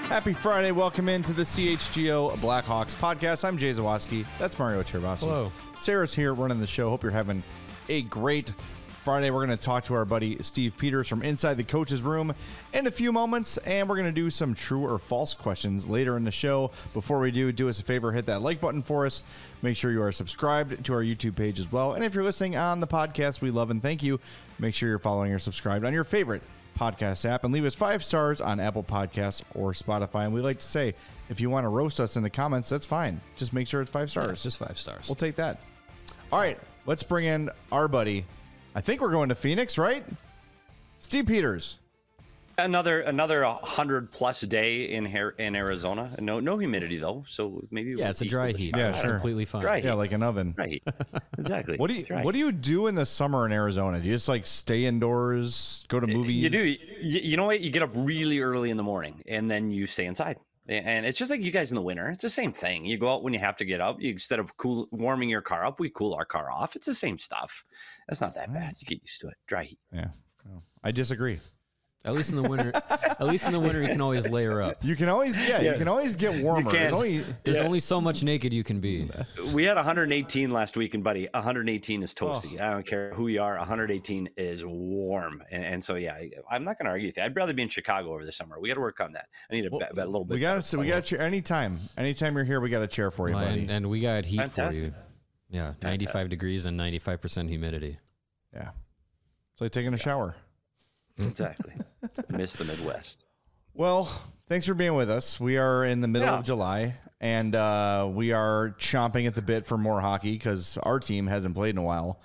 Happy Friday. Welcome into the CHGO Blackhawks podcast. I'm Jay Zawaski. That's Mario Chervasi. Hello. Sarah's here running the show. Hope you're having a great Friday. We're going to talk to our buddy Steve Peters from Inside the Coach's Room in a few moments, and we're going to do some true or false questions later in the show. Before we do us a favor, hit that like button for us. Make sure you are subscribed to our YouTube page as well. And if you're listening on the podcast, we love and thank you. Make sure you're following or subscribed on your favorite podcast app, and leave us 5 stars on Apple Podcasts or Spotify. And we like to say, if you want to roast us in the comments, that's fine. Just make sure it's 5 stars. Yeah, just 5 stars. We'll take that. All right, let's bring in our buddy. I think we're going to Phoenix, right? Steve Peters. Another 100+ day in Arizona. No humidity though, so maybe it's a dry heat. Yeah, sure. Completely fine. Dry heat. Yeah, like an oven. Dry heat. Exactly. What do you do in the summer in Arizona? Do you just like stay indoors, go to movies? You do. You know what? You get up really early in the morning and then you stay inside. And it's just like you guys in the winter. It's the same thing. You go out when you have to get up. Instead of warming your car up, we cool our car off. It's the same stuff. That's not that bad. You get used to it. Dry heat. Yeah. Well, I disagree. At least in the winter, you can always layer up. You can always, you can always get warmer. There's only so much naked you can be. We had 118 last week, and buddy, 118 is toasty. I don't care who you are. 118 is warm, and so I'm not going to argue with you. I'd rather be in Chicago over the summer. We got to work on that. I need a little bit. We got a chair anytime you're here. We got a chair for you, buddy. And we got heat Fantastic. for you. Yeah, 95 degrees and 95% humidity. Yeah, it's like taking a shower. Exactly. Miss the Midwest. Well, thanks for being with us. We are in the middle of July, and we are chomping at the bit for more hockey because our team hasn't played in a while.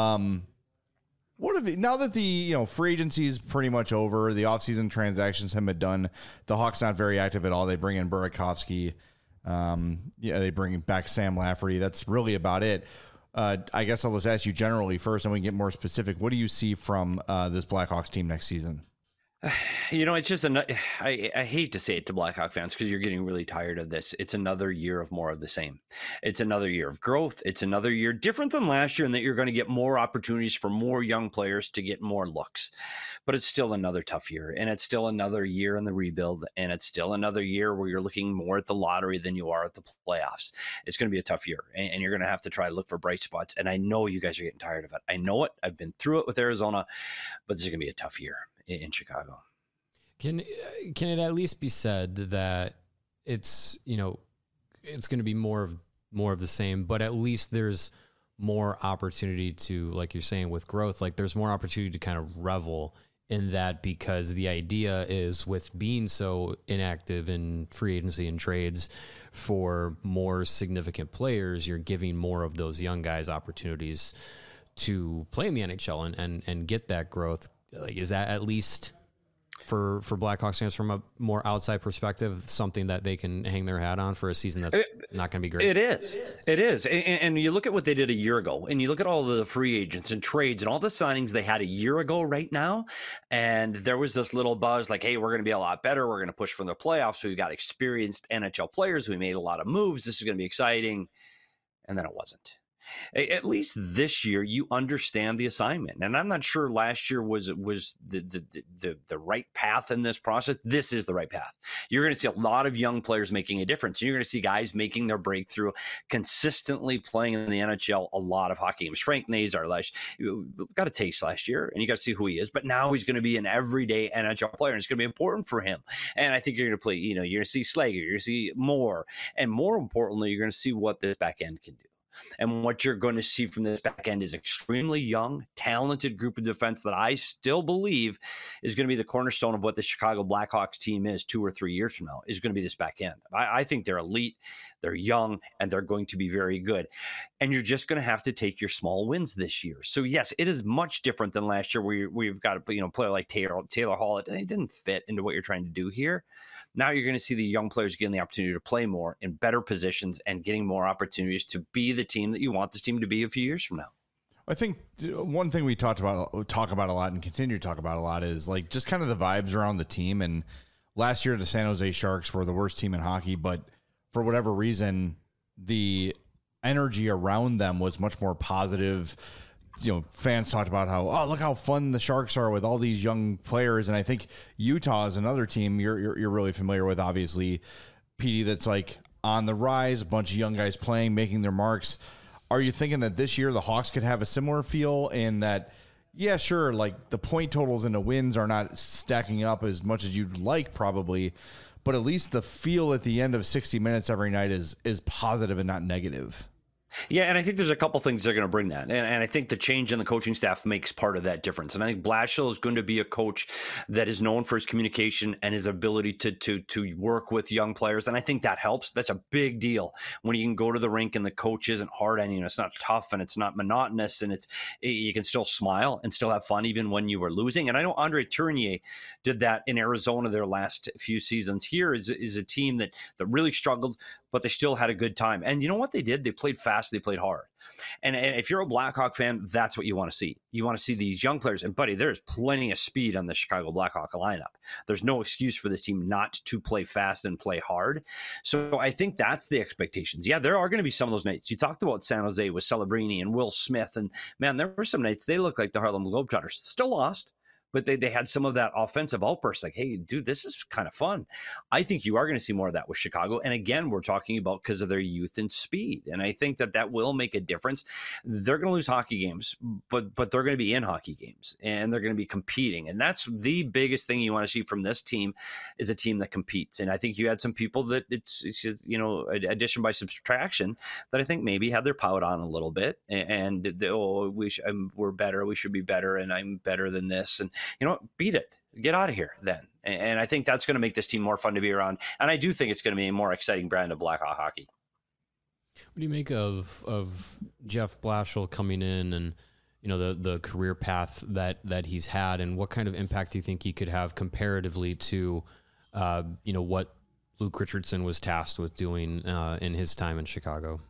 Now that the free agency is pretty much over, the offseason transactions have been done. The Hawks not very active at all. They bring in Burakovsky. They bring back Sam Lafferty. That's really about it. I guess I'll just ask you generally first, and we can get more specific. What do you see from this Blackhawks team next season? It's just I hate to say it to Blackhawk fans because you're getting really tired of this. It's another year of more of the same. It's another year of growth. It's another year different than last year in that you're going to get more opportunities for more young players to get more looks. But it's still another tough year, and it's still another year in the rebuild, and it's still another year where you're looking more at the lottery than you are at the playoffs. It's going to be a tough year, and you're going to have to try to look for bright spots. And I know you guys are getting tired of it. I know it. I've been through it with Arizona, but this is going to be a tough year in Chicago. Can it at least be said that it's it's going to be more of the same, but at least there's more opportunity to, like you're saying, with growth, like there's more opportunity to kind of revel in that, because the idea is, with being so inactive in free agency and trades for more significant players, you're giving more of those young guys opportunities to play in the NHL and get that growth. Like, is that at least for Blackhawks fans from a more outside perspective something that they can hang their hat on for a season that's not going to be great? It is. And you look at what they did a year ago, and you look at all the free agents and trades and all the signings they had a year ago right now, and there was this little buzz like, hey, we're going to be a lot better. We're going to push for the playoffs. We've got experienced NHL players. We made a lot of moves. This is going to be exciting. And then it wasn't. At least this year, you understand the assignment, and I'm not sure last year was the right path in this process. This is the right path. You're going to see a lot of young players making a difference. You're going to see guys making their breakthrough, consistently playing in the NHL a lot of hockey games. Frank Nazar got a taste last year, and you got to see who he is. But now he's going to be an everyday NHL player, and it's going to be important for him. And I think you're going to play. You're going to see Slager, you're going to see more, and more importantly, you're going to see what this back end can do. And what you're going to see from this back end is extremely young, talented group of defense that I still believe is going to be the cornerstone of what the Chicago Blackhawks team is 2 or 3 years from now, is going to be this back end. I think they're elite, they're young, and they're going to be very good. And you're just going to have to take your small wins this year. So yes, it is much different than last year where we've got a player like Taylor Hall. It didn't fit into what you're trying to do here. Now you're going to see the young players getting the opportunity to play more in better positions and getting more opportunities to be the team that you want this team to be a few years from now. I think one thing we talk about a lot and continue to talk about a lot is like just kind of the vibes around the team. And last year, the San Jose Sharks were the worst team in hockey, but for whatever reason, the energy around them was much more positive. fans talked about how, look how fun the Sharks are with all these young players. And I think Utah is another team you're really familiar with, obviously, PD, that's like on the rise, a bunch of young guys playing, making their marks. Are you thinking that this year the Hawks could have a similar feel in that, yeah, sure, like the point totals and the wins are not stacking up as much as you'd like probably, but at least the feel at the end of 60 minutes every night is positive and not negative? Yeah, and I think there's a couple things that are going to bring that. And I think the change in the coaching staff makes part of that difference. And I think Blashill is going to be a coach that is known for his communication and his ability to work with young players. And I think that helps. That's a big deal when you can go to the rink and the coach isn't hard on you. It's not tough and it's not monotonous, and you can still smile and still have fun even when you were losing. And I know Andre Tournier did that in Arizona their last few seasons. Here is a team that really struggled, but they still had a good time. And you know what they did? They played fast. They played hard. And if you're a Blackhawk fan, that's what you want to see. You want to see these young players. And, buddy, there's plenty of speed on the Chicago Blackhawk lineup. There's no excuse for this team not to play fast and play hard. So I think that's the expectations. Yeah, there are going to be some of those nights. You talked about San Jose with Celebrini and Will Smith. And, man, there were some nights they looked like the Harlem Globetrotters. Still lost. But they had some of that offensive outburst, like, hey, dude, this is kind of fun. I think you are going to see more of that with Chicago. And again, we're talking about because of their youth and speed. And I think that will make a difference. They're going to lose hockey games, but they're going to be in hockey games and they're going to be competing. And that's the biggest thing you want to see from this team, is a team that competes. And I think you had some people that it's just, addition by subtraction, that I think maybe had their pout on a little bit and we're better. We should be better. And I'm better than this. And, beat it. Get out of here then. And I think that's going to make this team more fun to be around. And I do think it's going to be a more exciting brand of Blackhawk hockey. What do you make of Jeff Blashill coming in and, the career path that he's had, and what kind of impact do you think he could have comparatively to, what Luke Richardson was tasked with doing in his time in Chicago?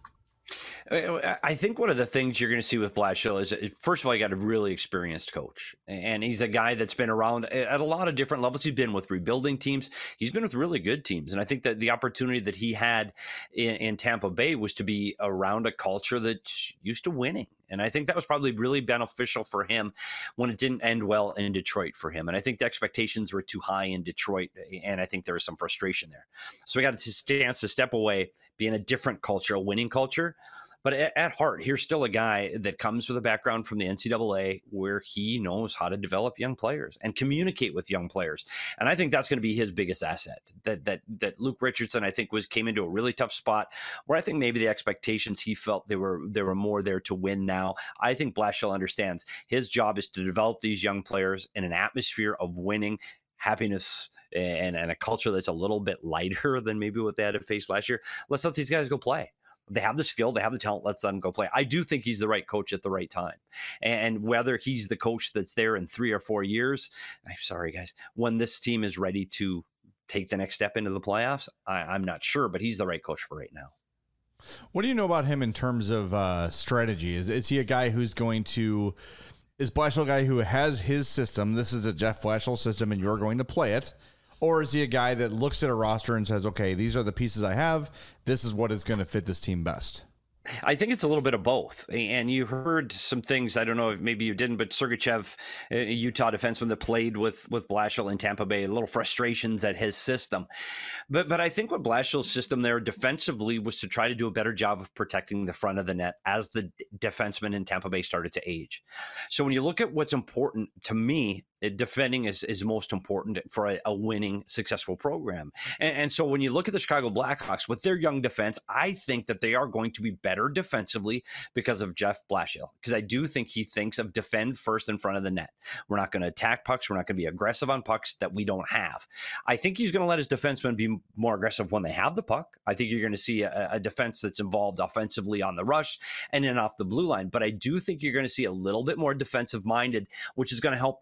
I think one of the things you're going to see with Blashill is, first of all, you got a really experienced coach. And he's a guy that's been around at a lot of different levels. He's been with rebuilding teams. He's been with really good teams. And I think that the opportunity that he had in Tampa Bay was to be around a culture that's used to winning. And I think that was probably really beneficial for him when it didn't end well in Detroit for him. And I think the expectations were too high in Detroit. And I think there was some frustration there. So we got to step away, be in a different culture, a winning culture. But at heart, here's still a guy that comes with a background from the NCAA where he knows how to develop young players and communicate with young players. And I think that's going to be his biggest asset. That Luke Richardson, I think, came into a really tough spot where I think maybe the expectations, he felt they were more there to win now. I think Blashill understands his job is to develop these young players in an atmosphere of winning, happiness, and a culture that's a little bit lighter than maybe what they had to face last year. Let's let these guys go play. They have the skill, they have the talent, let's let them go play. I do think he's the right coach at the right time. And whether he's the coach that's there in 3 or 4 years, I'm sorry, guys, when this team is ready to take the next step into the playoffs, I'm not sure, but he's the right coach for right now. What do you know about him in terms of strategy? Is he a guy who's going to... Is Blashill a guy who has his system? This is a Jeff Blashill system and you're going to play it. Or is he a guy that looks at a roster and says, okay, these are the pieces I have. This is what is going to fit this team best? I think it's a little bit of both. And you heard some things, I don't know if maybe you didn't, but Sergachev, a Utah defenseman that played with Blashill in Tampa Bay, a little frustrations at his system. But I think what Blashill's system there defensively was to try to do a better job of protecting the front of the net as the defensemen in Tampa Bay started to age. So when you look at what's important to me, defending is most important for a winning, successful program. And so when you look at the Chicago Blackhawks with their young defense, I think that they are going to be better defensively because of Jeff Blashill, because I do think he thinks of defend first in front of the net. We're not going to attack pucks. We're not going to be aggressive on pucks that we don't have. I think he's going to let his defensemen be more aggressive when they have the puck. I think you're going to see a defense that's involved offensively on the rush and then off the blue line. But I do think you're going to see a little bit more defensive minded, which is going to help this team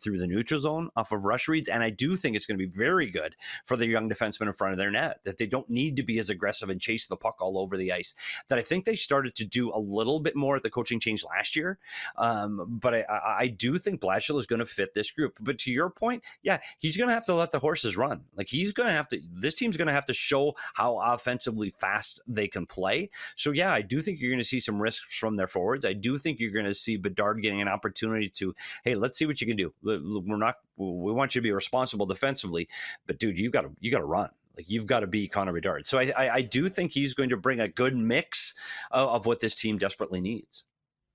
through the neutral zone off of rush reads. And I do think it's going to be very good for the young defensemen in front of their net, that they don't need to be as aggressive and chase the puck all over the ice, that I think they started to do a little bit more at the coaching change last year. But I do think Blashill is going to fit this group. But to your point, yeah, he's going to have to let the horses run. Like he's going to have to, this team's going to have to show how offensively fast they can play. So yeah, I do think you're going to see some risks from their forwards. I do think you're going to see Bedard getting an opportunity to, hey, let's see what you can do. We want you to be responsible defensively, but dude, you got to run. Like you've got to be Connor Bedard. So I do think he's going to bring a good mix of what this team desperately needs.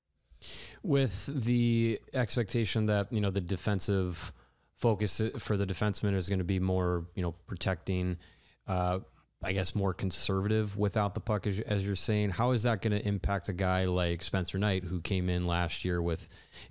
With the expectation that, the defensive focus for the defenseman is going to be more, protecting, I guess, more conservative without the puck, as you're saying. How is that going to impact a guy like Spencer Knight, who came in last year with,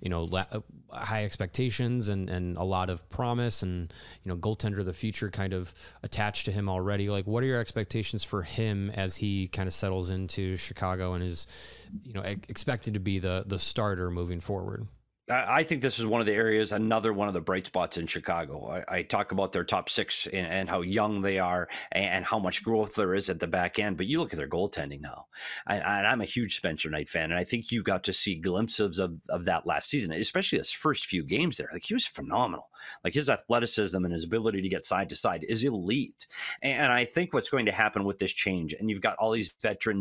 high expectations and a lot of promise and, goaltender of the future kind of attached to him already? Like, what are your expectations for him as he kind of settles into Chicago and is, expected to be the starter moving forward? I think this is one of the areas, another one of the bright spots in Chicago. I talk about their top six and how young they are and how much growth there is at the back end. But you look at their goaltending now. And I'm a huge Spencer Knight fan. And I think you got to see glimpses of that last season, especially his first few games there. Like he was phenomenal. Like his athleticism and his ability to get side to side is elite. And I think what's going to happen with this change, and you've got all these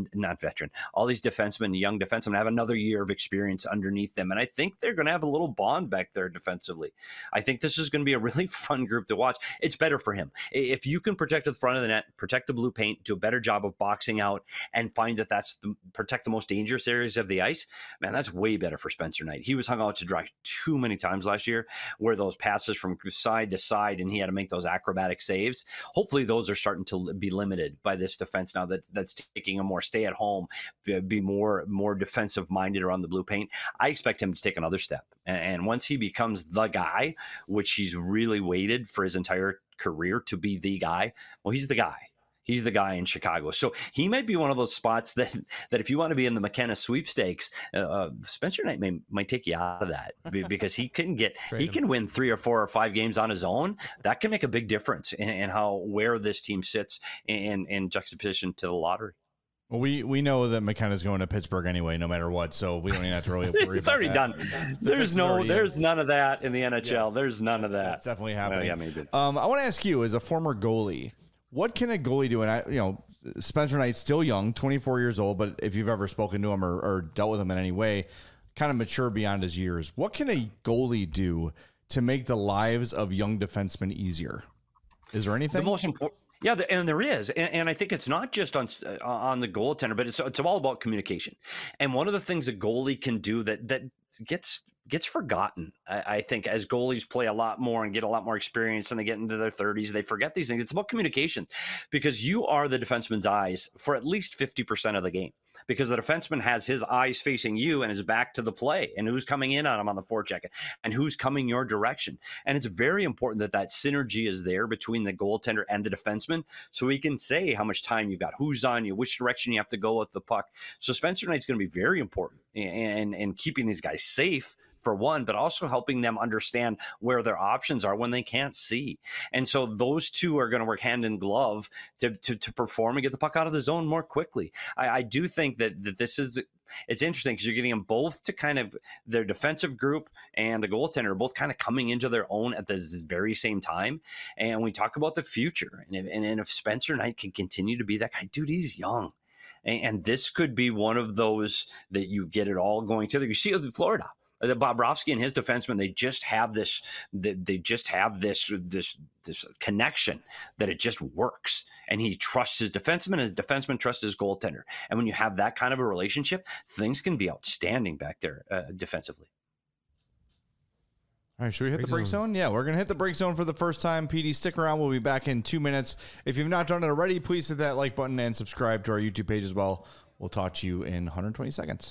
all these defensemen, young defensemen have another year of experience underneath them. And I think they're going to have a little bond back there defensively. I think this is going to be a really fun group to watch. It's better for him. If you can protect the front of the net, protect the blue paint, do a better job of boxing out, and find that protect the most dangerous areas of the ice, man, that's way better for Spencer Knight. He was hung out to dry too many times last year where those passes from side to side and he had to make those acrobatic saves. Hopefully those are starting to be limited by this defense now that's taking a more stay at home, be more defensive minded around the blue paint. I expect him to take another step. And once he becomes the guy, which he's really waited for his entire career to be the guy, well, he's the guy. He's the guy in Chicago. So he might be one of those spots that if you want to be in the McKenna sweepstakes, Spencer Knight might take you out of that because he can win 3 or 4 or 5 games on his own. That can make a big difference in where this team sits in juxtaposition to the lottery. Well, we know that McKenna's going to Pittsburgh anyway, no matter what, so we don't even have to really worry it's about already that. Done. There's none of that in the NHL. Yeah, there's none of that. That's definitely happening. Well, yeah, maybe. I want to ask you, as a former goalie, what can a goalie do? And Spencer Knight's still young, 24 years old, but if you've ever spoken to him or dealt with him in any way, kind of mature beyond his years. What can a goalie do to make the lives of young defensemen easier? Is there anything? The most important. Yeah, and there is, and I think it's not just on the goaltender, but it's all about communication. And one of the things a goalie can do that gets forgotten, I think, as goalies play a lot more and get a lot more experience and they get into their 30s, they forget these things. It's about communication, because you are the defenseman's eyes for at least 50% of the game, because the defenseman has his eyes facing you and his back to the play and who's coming in on him on the forecheck and who's coming your direction. And it's very important that synergy is there between the goaltender and the defenseman, so we can say how much time you've got, who's on you, which direction you have to go with the puck. So Spencer Knight's going to be very important in keeping these guys safe, for one, but also helping them understand where their options are when they can't see. And so those two are going to work hand in glove to perform and get the puck out of the zone more quickly. I do think that this is, it's interesting because you're getting them both to kind of, their defensive group and the goaltender are both kind of coming into their own at the very same time. And we talk about the future. And if Spencer Knight can continue to be that guy, dude, he's young. And this could be one of those that you get it all going together. You see it in Florida. Bobrovsky and his defenseman, they just have this connection that it just works. And he trusts his defenseman, and his defenseman trusts his goaltender. And when you have that kind of a relationship, things can be outstanding back there defensively. All right, should we hit the break zone? Yeah, we're going to hit the break zone for the first time. PD, stick around. We'll be back in 2 minutes. If you've not done it already, please hit that like button and subscribe to our YouTube page as well. We'll talk to you in 120 seconds.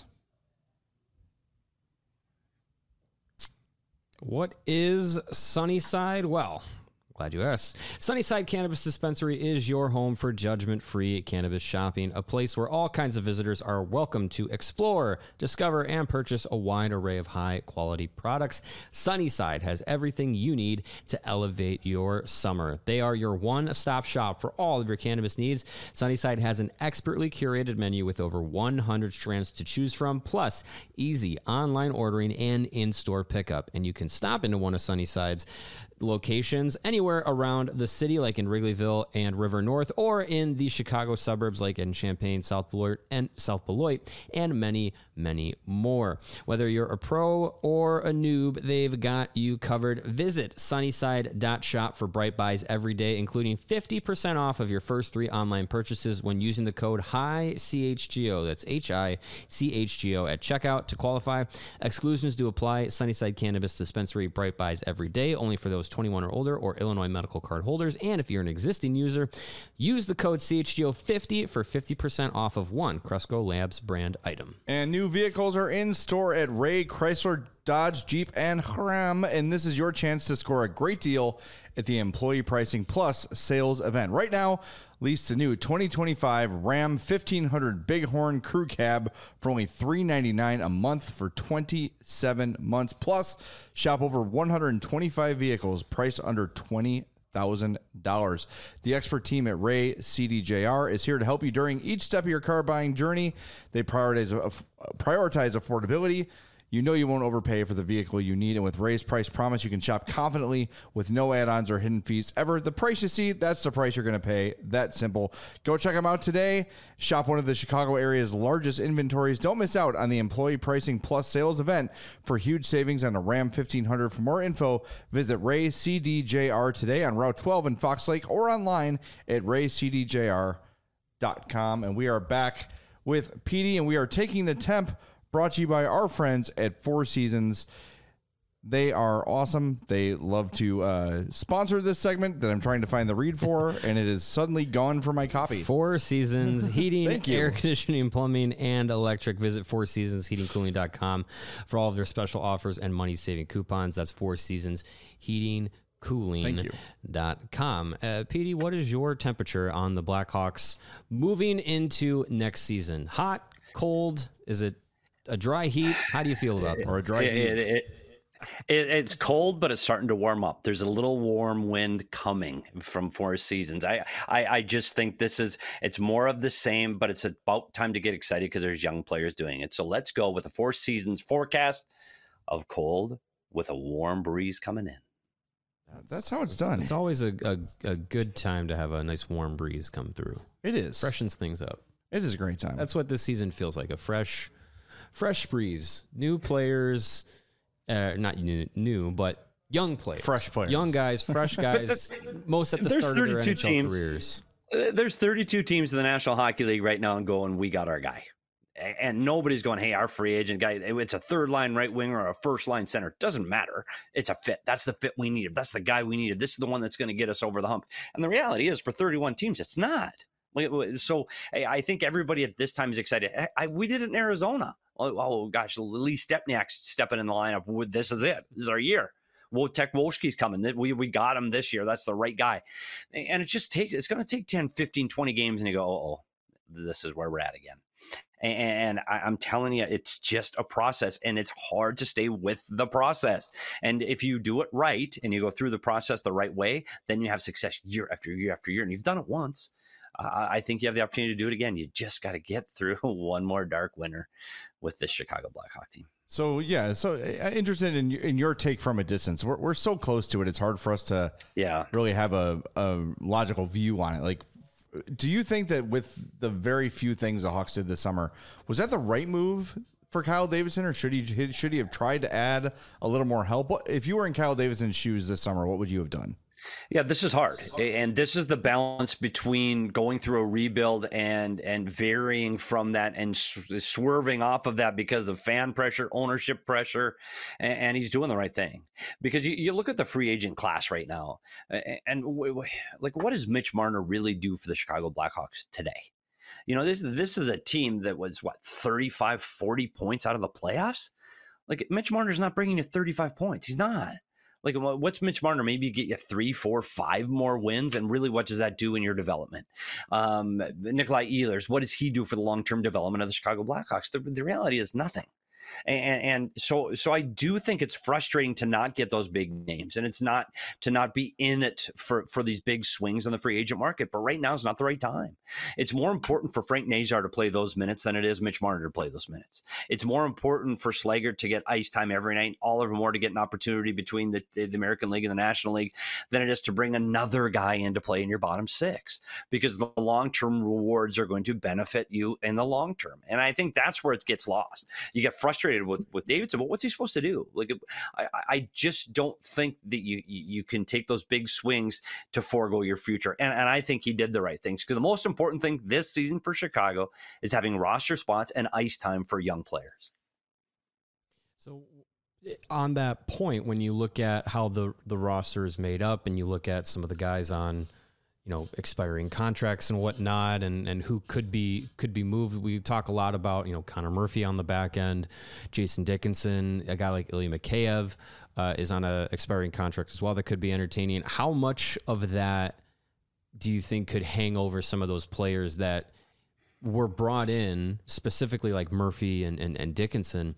What is Sunnyside? Well, Glad you asked. Sunnyside Cannabis Dispensary is your home for judgment-free cannabis shopping, a place where all kinds of visitors are welcome to explore, discover, and purchase a wide array of high-quality products. Sunnyside has everything you need to elevate your summer. They are your one-stop shop for all of your cannabis needs. Sunnyside has an expertly curated menu with over 100 strands to choose from, plus easy online ordering and in-store pickup. And you can stop into one of Sunnyside's locations anywhere around the city, like in Wrigleyville and River North, or in the Chicago suburbs like in Champaign, South Beloit, and many, many more. Whether you're a pro or a noob, they've got you covered. Visit sunnyside.shop for bright buys every day, including 50% off of your first 3 online purchases when using the code HICHGO. That's HICHGO at checkout to qualify. Exclusions do apply. Sunnyside Cannabis Dispensary, bright buys every day, only for those 21 or older or Illinois medical card holders. And if you're an existing user, use the code CHGO50 for 50% off of one Cresco Labs brand item. And new vehicles are in store at Ray Chrysler, Dodge, Jeep, and Ram, and this is your chance to score a great deal at the Employee Pricing Plus sales event. Right now, lease the new 2025 Ram 1500 Bighorn Crew Cab for only $399 a month for 27 months. Plus, shop over 125 vehicles priced under $20,000. The expert team at Ray CDJR is here to help you during each step of your car buying journey. They prioritize affordability. You know you won't overpay for the vehicle you need, and with Ray's Price Promise, you can shop confidently with no add-ons or hidden fees ever. The price you see, that's the price you're going to pay. That simple. Go check them out today. Shop one of the Chicago area's largest inventories. Don't miss out on the Employee Pricing Plus sales event for huge savings on a Ram 1500. For more info, visit Ray CDJR today on Route 12 in Fox Lake or online at raycdjr.com. And we are back with PD, and we are taking the temp, brought to you by our friends at Four Seasons. They are awesome. They love to sponsor this segment that I'm trying to find the read for, and it is suddenly gone from my copy. Four Seasons Heating, Air Conditioning, Plumbing, and Electric. Visit fourseasonsheatingcooling.com for all of their special offers and money-saving coupons. That's Four Seasons Heating Cooling.com. PD, what is your temperature on the Blackhawks moving into next season? Hot, cold? Is it a dry heat? How do you feel about that? Or a dry heat? It's cold, but it's starting to warm up. There's a little warm wind coming from Four Seasons. I just think it's more of the same, but it's about time to get excited because there's young players doing it. So let's go with the Four Seasons forecast of cold with a warm breeze coming in. That's how it's done. It's always a good time to have a nice warm breeze come through. It is. Freshens things up. It is a great time. That's what this season feels like, a fresh breeze. New players, not new, but young players. Fresh players. Young guys, fresh guys, most at the start of their NHL careers. There's 32 teams in the National Hockey League right now and going, we got our guy. And nobody's going, hey, our free agent guy, it's a third-line right winger or a first-line center. Doesn't matter. It's a fit. That's the fit we needed. That's the guy we needed. This is the one that's going to get us over the hump. And the reality is, for 31 teams, it's not. So I think everybody at this time is excited. We did it in Arizona. Oh gosh, Lee Stepniak's stepping in the lineup. This is it. This is our year. Wojtek Wolski's coming. We got him this year. That's the right guy. And it's going to take 10, 15, 20 games, and you go, this is where we're at again. And I'm telling you, it's just a process, and it's hard to stay with the process. And if you do it right and you go through the process the right way, then you have success year after year after year. And you've done it once. I think you have the opportunity to do it again. You just got to get through one more dark winter with this Chicago Blackhawk team. So, yeah, interested in your take from a distance. We're so close to it. It's hard for us to really have a logical view on it. Like, do you think that with the very few things the Hawks did this summer, was that the right move for Kyle Davidson, or should he have tried to add a little more help? If you were in Kyle Davidson's shoes this summer, what would you have done? Yeah, this is hard. And this is the balance between going through a rebuild and varying from that and swerving off of that because of fan pressure, ownership pressure, and he's doing the right thing. Because you look at the free agent class right now, and like, what does Mitch Marner really do for the Chicago Blackhawks today? You know, this is a team that was, 35, 40 points out of the playoffs? Like, Mitch Marner's not bringing you 35 points. He's not. Like, what's Mitch Marner? Maybe get you 3, 4, 5 more wins. And really, what does that do in your development? Nikolai Ehlers, what does he do for the long-term development of the Chicago Blackhawks? The reality is nothing. And so I do think it's frustrating to not get those big names, and it's not to not be in it for these big swings on the free agent market. But right now is not the right time. It's more important for Frank Nazar to play those minutes than it is Mitch Marner to play those minutes. It's more important for Slaggert to get ice time every night, Oliver Moore to get an opportunity between the American League and the National League than it is to bring another guy in to play in your bottom six, because the long-term rewards are going to benefit you in the long term. And I think that's where it gets lost. You get frustrated with Davidson, but what's he supposed to do? Like, I just don't think that you can take those big swings to forego your future. And I think he did the right things, because the most important thing this season for Chicago is having roster spots and ice time for young players. So on that point, when you look at how the roster is made up and you look at some of the guys on, expiring contracts and whatnot, and who could be moved. We talk a lot about, Connor Murphy on the back end, Jason Dickinson, a guy like Ilya Mikheyev is on a expiring contract as well. That could be entertaining. How much of that do you think could hang over some of those players that were brought in, specifically like Murphy and Dickinson,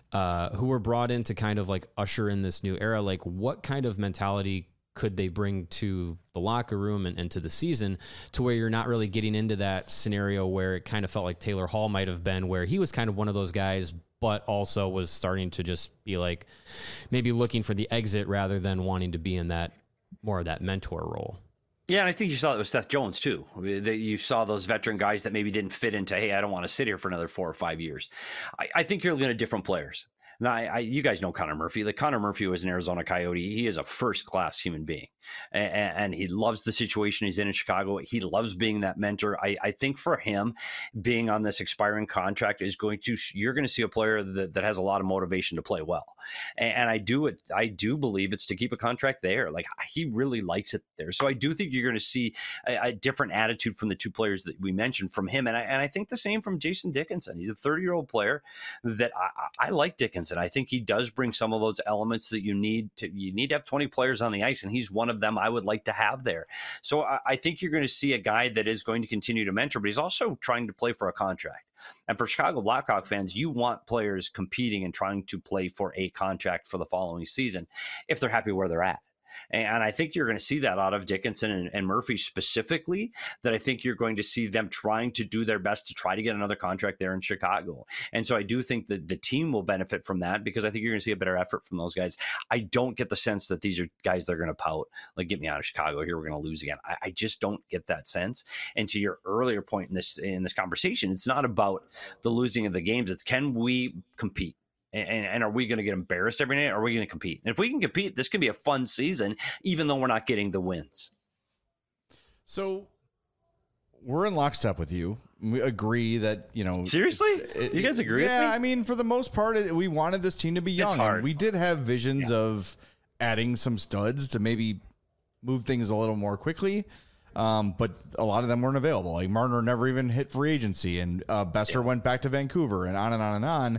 who were brought in to kind of like usher in this new era? Like, what kind of mentality could they bring to the locker room and to the season, to where you're not really getting into that scenario where it kind of felt like Taylor Hall might have been, where he was kind of one of those guys, but also was starting to just be like maybe looking for the exit rather than wanting to be in that more of that mentor role? Yeah, and I think you saw it with Seth Jones, too. You saw those veteran guys that maybe didn't fit into, hey, I don't want to sit here for another 4 or 5 years. I think you're looking at different players. Now, you guys know Connor Murphy. Like, Connor Murphy was an Arizona Coyote. He is a first-class human being, and he loves the situation he's in Chicago. He loves being that mentor. I think for him, being on this expiring contract you're going to see a player that has a lot of motivation to play well. And I do believe it's to keep a contract there. Like, he really likes it there. So I do think you're going to see a different attitude from the two players that we mentioned from him. And I think the same from Jason Dickinson. He's a 30-year-old player that I like Dickinson. And I think he does bring some of those elements that you need to have 20 players on the ice, and he's one of them I would like to have there. So I think you're going to see a guy that is going to continue to mentor, but he's also trying to play for a contract. And for Chicago Blackhawk fans, you want players competing and trying to play for a contract for the following season if they're happy where they're at. And I think you're going to see that out of Dickinson and Murphy specifically, that I think you're going to see them trying to do their best to try to get another contract there in Chicago. And so I do think that the team will benefit from that, because I think you're going to see a better effort from those guys. I don't get the sense that these are guys that are going to pout, like, get me out of Chicago here, we're going to lose again. I just don't get that sense. And to your earlier point in this conversation, it's not about the losing of the games. It's, can we compete? And are we going to get embarrassed every night? Or are we going to compete? And if we can compete, this could be a fun season, even though we're not getting the wins. So we're in lockstep with you. We agree that, Seriously? You guys agree with me? Yeah, I mean, for the most part, we wanted this team to be young. It's hard. And we did have visions of adding some studs to maybe move things a little more quickly. But a lot of them weren't available. Like, Marner never even hit free agency, and Besser went back to Vancouver, and on and on and on.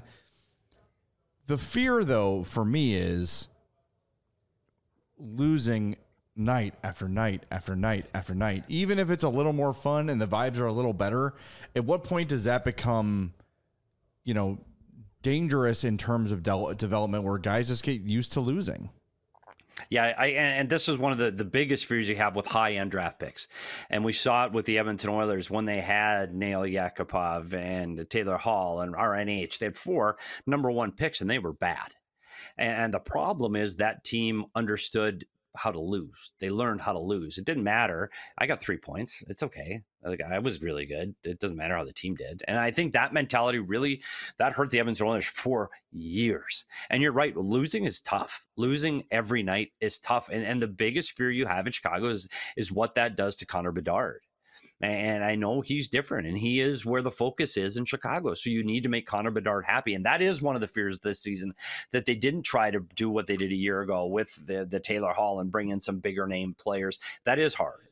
The fear, though, for me is losing night after night after night after night. Even if it's a little more fun and the vibes are a little better, at what point does that become, dangerous in terms of development, where guys just get used to losing? Yeah, and this is one of the biggest fears you have with high-end draft picks. And we saw it with the Edmonton Oilers when they had Nail Yakupov and Taylor Hall and RNH. They had 4 number 1 picks, and they were bad. And the problem is that team understood how to lose. They learned how to lose. It didn't matter. I got 3 points. It's okay. Like, I was really good. It doesn't matter how the team did. And I think that mentality really, that hurt the Edmonton Oilers for years. And you're right. Losing is tough. Losing every night is tough. And the biggest fear you have in Chicago is what that does to Connor Bedard. And I know he's different, and he is where the focus is in Chicago. So you need to make Connor Bedard happy. And that is one of the fears this season, that they didn't try to do what they did a year ago with the Taylor Hall and bring in some bigger name players. That is hard.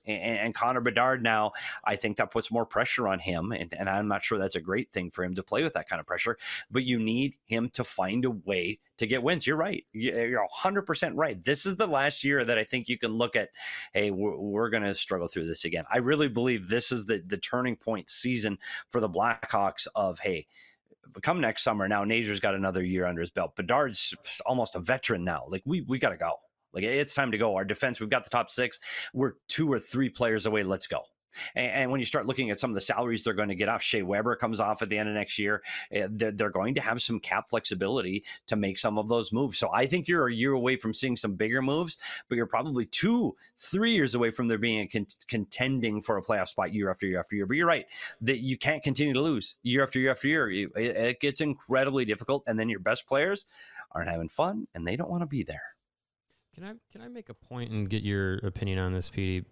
And Connor Bedard now, I think that puts more pressure on him. And I'm not sure that's a great thing for him to play with that kind of pressure, but you need him to find a way to get wins. You're right. You're 100% right. This is the last year that I think you can look at, hey, we're going to struggle through this again. I really believe this is the turning point season for the Blackhawks of, hey, come next summer. Now Nazer's got another year under his belt. Bedard's almost a veteran now. Like we got to go. Like it's time to go. Our defense, we've got the top 6. We're 2 or 3 players away. Let's go. And when you start looking at some of the salaries they're going to get off, Shea Weber comes off at the end of next year. They're going to have some cap flexibility to make some of those moves. So I think you're a year away from seeing some bigger moves, but you're probably 2-3 years away from there being contending for a playoff spot year after year after year. But you're right that you can't continue to lose year after year after year. It gets incredibly difficult, and then your best players aren't having fun, and they don't want to be there. Can I make a point and get your opinion on this, Petey?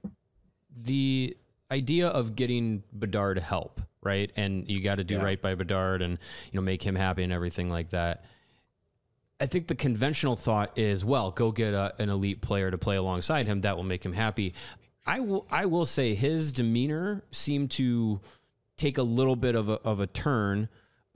The idea of getting Bedard help, right? And you got to do right by Bedard and, make him happy and everything like that. I think the conventional thought is, well, go get an elite player to play alongside him. That will make him happy. I will say his demeanor seemed to take a little bit of a turn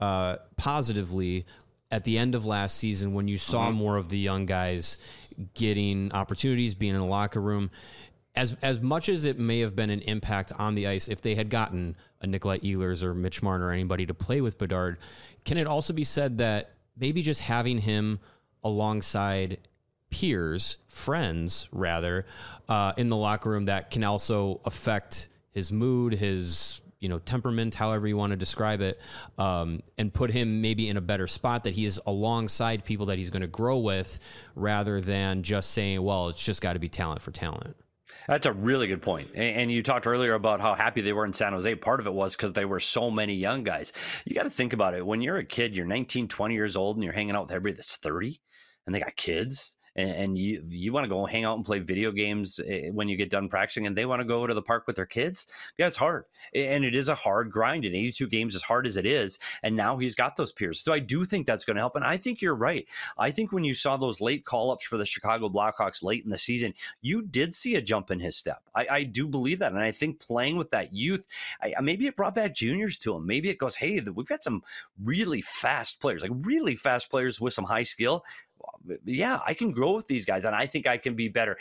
positively at the end of last season when you saw more of the young guys getting opportunities, being in the locker room. As much as it may have been an impact on the ice, if they had gotten a Nikolai Ehlers or Mitch Marner or anybody to play with Bedard, can it also be said that maybe just having him alongside peers, friends rather, in the locker room, that can also affect his mood, his temperament, however you want to describe it, and put him maybe in a better spot that he is alongside people that he's going to grow with rather than just saying, well, it's just got to be talent for talent. That's a really good point. And you talked earlier about how happy they were in San Jose. Part of it was because they were so many young guys. You got to think about it. When you're a kid, you're 19, 20 years old, and you're hanging out with everybody that's 30, and they got kids. And you want to go hang out and play video games when you get done practicing, and they want to go to the park with their kids. Yeah, it's hard. And it is a hard grind in 82 games, as hard as it is. And now he's got those peers. So I do think that's going to help. And I think you're right. I think when you saw those late call-ups for the Chicago Blackhawks late in the season, you did see a jump in his step. I do believe that. And I think playing with that youth, maybe it brought back juniors to him. Maybe it goes, hey, we've got some really fast players, like really fast players with some high skill. Yeah, I can grow with these guys, and I think I can be better.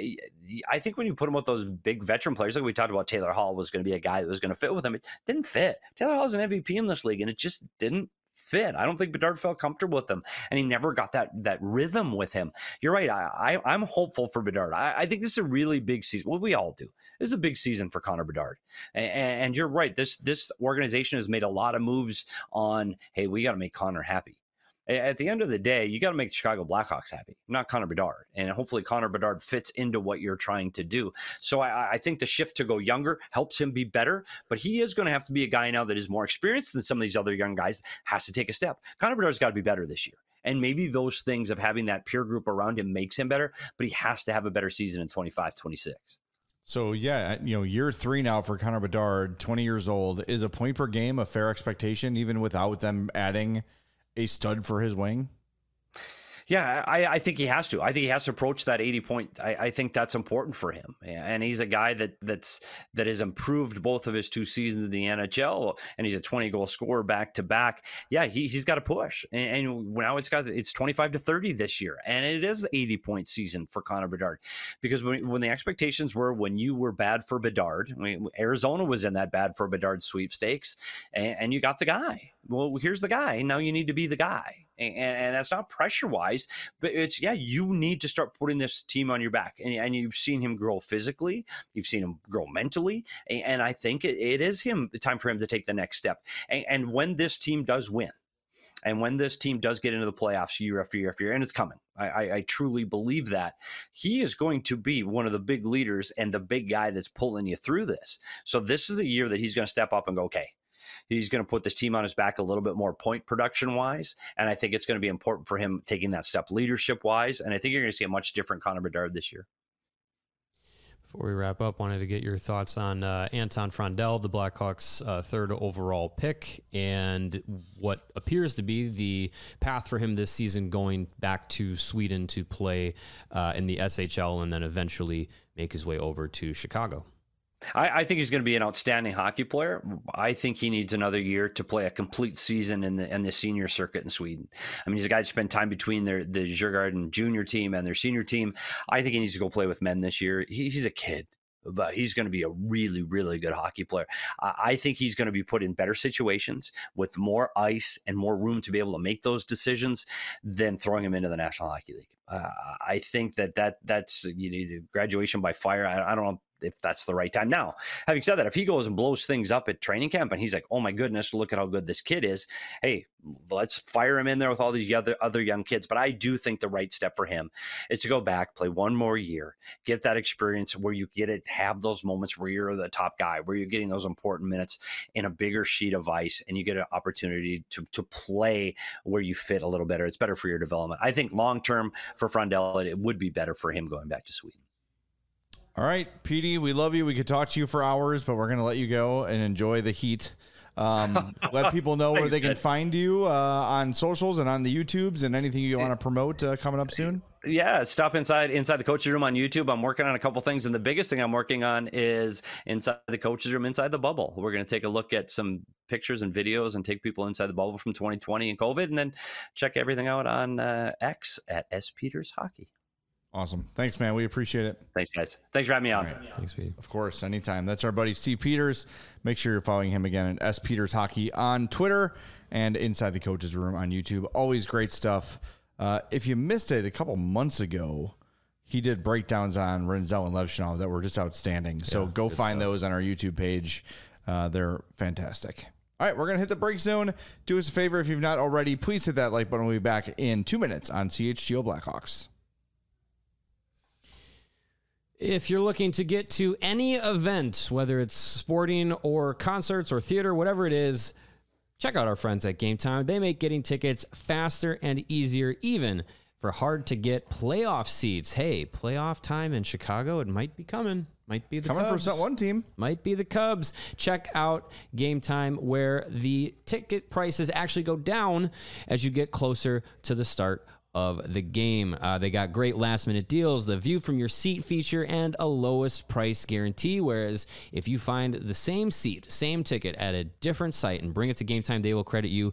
I think when you put them with those big veteran players, like we talked about, Taylor Hall was going to be a guy that was going to fit with him. It didn't fit. Taylor Hall's an MVP in this league, and it just didn't fit. I don't think Bedard felt comfortable with him, and he never got that rhythm with him. You're right. I'm hopeful for Bedard. I think this is a really big season. Well, we all do. This is a big season for Connor Bedard. And you're right. This organization has made a lot of moves on, hey, we got to make Connor happy. At the end of the day, you got to make the Chicago Blackhawks happy, not Connor Bedard. And hopefully Connor Bedard fits into what you're trying to do. So I think the shift to go younger helps him be better, but he is going to have to be a guy now that is more experienced than some of these other young guys, has to take a step. Connor Bedard's got to be better this year. And maybe those things of having that peer group around him makes him better, but he has to have a better season in 25-26. So, yeah, year 3 now for Connor Bedard, 20 years old. Is a point per game a fair expectation, even without them adding a stud for his wing? Yeah, I think he has to. I think he has to approach that 80 point. I think that's important for him. And he's a guy that has improved both of his 2 seasons in the NHL, and he's a 20-goal scorer back to back. Yeah, he's got to push. And now it's 25-30 this year. And it is the 80-point season for Connor Bedard. Because when the expectations were when you were bad for Bedard, Arizona was in that bad for Bedard sweepstakes, and you got the guy. Well, here's the guy. Now you need to be the guy. And that's not pressure-wise, but it's, you need to start putting this team on your back. And you've seen him grow physically. You've seen him grow mentally. And I think it is time for him to take the next step. And when this team does win, and when this team does get into the playoffs year after year after year, and it's coming, I truly believe that, he is going to be one of the big leaders and the big guy that's pulling you through this. So this is a year that he's going to step up and go, okay, he's going to put this team on his back a little bit more point production wise. And I think it's going to be important for him taking that step leadership wise. And I think you're going to see a much different Connor Bedard this year. Before we wrap up, wanted to get your thoughts on Anton Frondell, the Blackhawks' 3rd overall pick, and what appears to be the path for him this season, going back to Sweden to play in the SHL and then eventually make his way over to Chicago. I think he's going to be an outstanding hockey player. I think he needs another year to play a complete season in the senior circuit in Sweden. I mean, he's a guy who spent time between the Djurgården junior team and their senior team. I think he needs to go play with men this year. He's a kid, but he's going to be a really, really good hockey player. I think he's going to be put in better situations with more ice and more room to be able to make those decisions than throwing him into the National Hockey League. I think that's graduation by fire. I don't know if that's the right time. Now, having said that, if he goes and blows things up at training camp and he's like, oh my goodness, look at how good this kid is. Hey, let's fire him in there with all these other young kids. But I do think the right step for him is to go back, play one more year, get that experience where you get it, have those moments where you're the top guy, where you're getting those important minutes in a bigger sheet of ice, and you get an opportunity to play where you fit a little better. It's better for your development. I think long-term for Frondell, it would be better for him going back to Sweden. All right, Petey, we love you. We could talk to you for hours, but we're going to let you go and enjoy the heat. Let people know where they can find you on socials and on the YouTubes and anything you want to promote coming up soon. Yeah, stop inside the coach's room on YouTube. I'm working on a couple things, and the biggest thing I'm working on is inside the coach's room, inside the bubble. We're going to take a look at some pictures and videos and take people inside the bubble from 2020 and COVID, and then check everything out on X at S Peters Hockey. Awesome. Thanks, man. We appreciate it. Thanks, guys. Thanks for having me on. Right. Thanks, Pete. Of course, anytime. That's our buddy Steve Peters. Make sure you're following him again at S Peters Hockey on Twitter and Inside the Coach's Room on YouTube. Always great stuff. If you missed it a couple months ago, he did breakdowns on Rinzel and Levchinov that were just outstanding. So go find those on our YouTube page. They're fantastic. All right, we're going to hit the break zone. Do us a favor if you've not already. Please hit that like button. We'll be back in 2 minutes on CHGO Blackhawks. If you're looking to get to any event, whether it's sporting or concerts or theater, whatever it is, check out our friends at Game Time. They make getting tickets faster and easier, even for hard-to-get playoff seats. Hey, playoff time in Chicago, it might be coming. Might be the Coming Cubs. for one team. Might be the Cubs. Check out Game Time, where the ticket prices actually go down as you get closer to the start of the game. They got great last-minute deals, the view from your seat feature, and a lowest price guarantee. Whereas if you find the same seat, same ticket at a different site and bring it to Game Time, they will credit you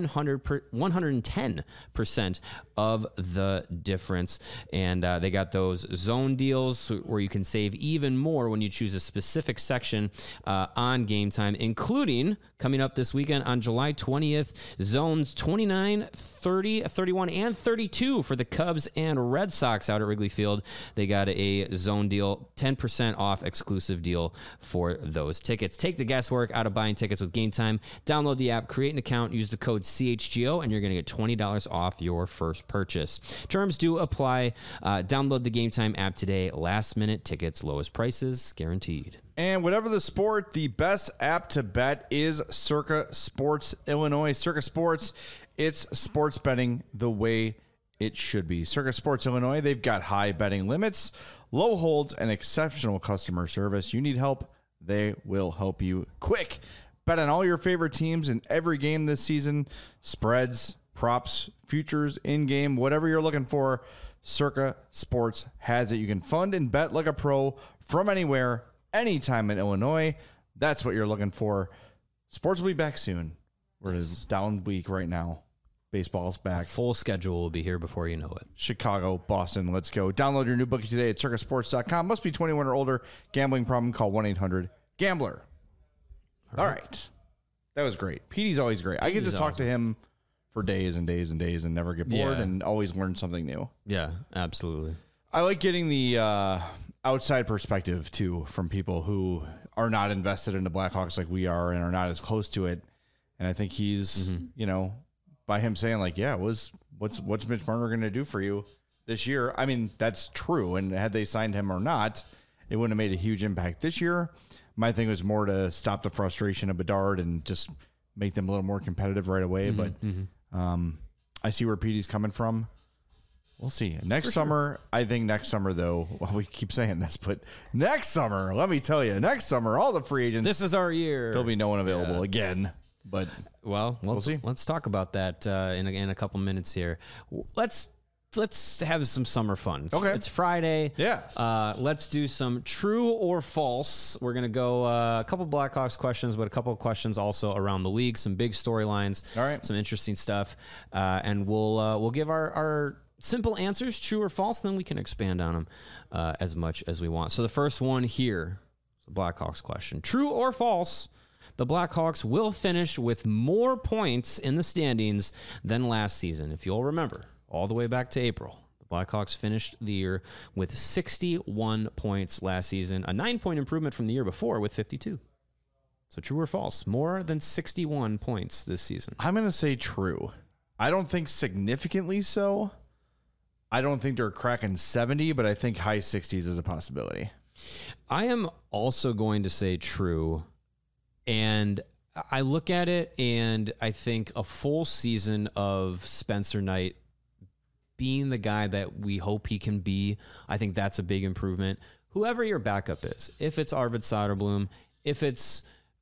110% of the difference. And they got those zone deals where you can save even more when you choose a specific section on Game Time, including coming up this weekend on July 20th, zones 29, 30, 31, and 32 for the Cubs and Red Sox out at Wrigley Field. They got a zone deal, 10% off exclusive deal for those tickets. Take the guesswork out of buying tickets with Game Time. Download the app, create an account, use the code CHGO, and you're going to get $20 off your first purchase. Terms do apply. Download the Game Time app today. Last minute tickets, lowest prices guaranteed. And whatever the sport, the best app to bet is Circa Sports Illinois. Circa Sports, it's sports betting the way it should be. Circa Sports Illinois, they've got high betting limits, low holds, and exceptional customer service. You need help, they will help you quick. Bet on all your favorite teams in every game this season. Spreads, props, futures, in-game, whatever you're looking for, Circa Sports has it. You can fund and bet like a pro from anywhere, anytime in Illinois. That's what you're looking for. Sports will be back soon. We're in a down week right now. Baseball's back. Full schedule will be here before you know it. Chicago, Boston, let's go. Download your new bookie today at circasports.com. Must be 21 or older. Gambling problem, call 1-800-GAMBLER. All right. That was great. Petey's always great. I could just talk to him for days and days and days and never get bored and always learn something new. Yeah, absolutely. I like getting the outside perspective, too, from people who are not invested in the Blackhawks like we are and are not as close to it. And I think he's, by him saying, like, yeah, what's Mitch Marner going to do for you this year? I mean, that's true. And had they signed him or not, it wouldn't have made a huge impact this year. My thing was more to stop the frustration of Bedard and just make them a little more competitive right away. But I see where Petey's coming from. We'll see. Next summer, I think next summer, though, well, we keep saying this, but next summer, let me tell you, next summer, all the free agents. This is our year. There'll be no one available again. But we'll see. Let's talk about that in a couple minutes here. Let's let's have some summer fun. Okay. It's Friday. Yeah. Let's do some true or false. We're going to go a couple Blackhawks questions, but a couple of questions also around the league, some big storylines, All right. some interesting stuff. And we'll give our simple answers, true or false, then we can expand on them as much as we want. So the first one here, the Blackhawks question. True or false, the Blackhawks will finish with more points in the standings than last season. If you'll remember, all the way back to April, the Blackhawks finished the year with 61 points last season, a 9-point improvement from the year before with 52. So true or false, more than 61 points this season. I'm going to say true. I don't think significantly so. I don't think they're cracking 70, but I think high 60s is a possibility. I am also going to say true. And I look at it and I think a full season of Spencer Knight being the guy that we hope he can be, I think that's a big improvement. Whoever your backup is, if it's Arvid Soderblom, if it's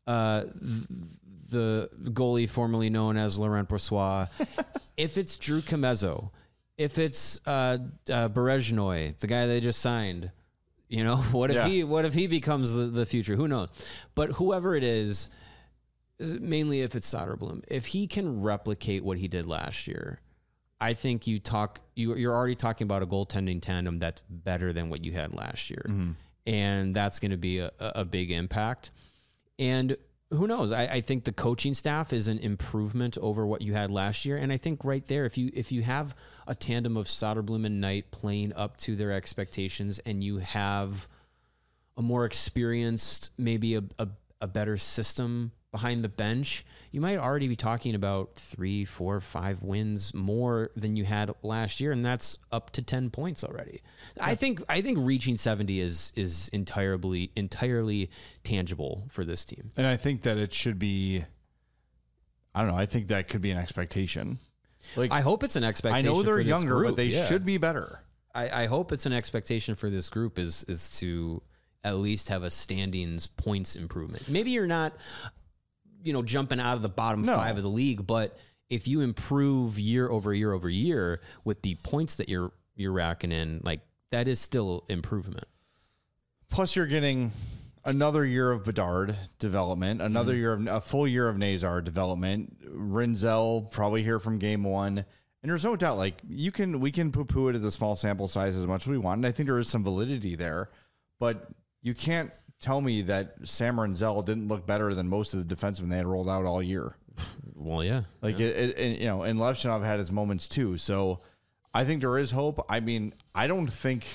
the goalie formerly known as Laurent Brossoit, if it's Drew Comezzo, if it's Berezhnoy, the guy they just signed, you know, what if he becomes the future? Who knows? But whoever it is, mainly if it's Soderblom, if he can replicate what he did last year, I think you're already talking about a goaltending tandem that's better than what you had last year. Mm-hmm. And that's going to be a big impact. And who knows? I think the coaching staff is an improvement over what you had last year. And I think right there, if you have a tandem of Soderblom and Knight playing up to their expectations, and you have a more experienced, maybe a better system behind the bench, you might already be talking about 3, 4, 5 wins more than you had last year, and that's up to 10 points already. I think reaching 70 is entirely tangible for this team. And I think that it should be, I don't know, I think that could be an expectation. Like, I hope it's an expectation. I know they're for this younger, group. but they should be better. I hope it's an expectation for this group is to at least have a standings points improvement. Maybe you're not, jumping out of the bottom 5 of the league, but if you improve year over year over year with the points that you're racking in, like, that is still improvement. Plus, you're getting another year of Bedard development, another year of a full year of Nazar development. Rinzel probably here from game 1, and there's no doubt, like, we can poo-poo it as a small sample size as much as we want, and I think there is some validity there, but you can't tell me that Sam Rinzel didn't look better than most of the defensemen they had rolled out all year. Well, yeah. Like, and Levchinov had his moments too. So I think there is hope. I mean, I don't think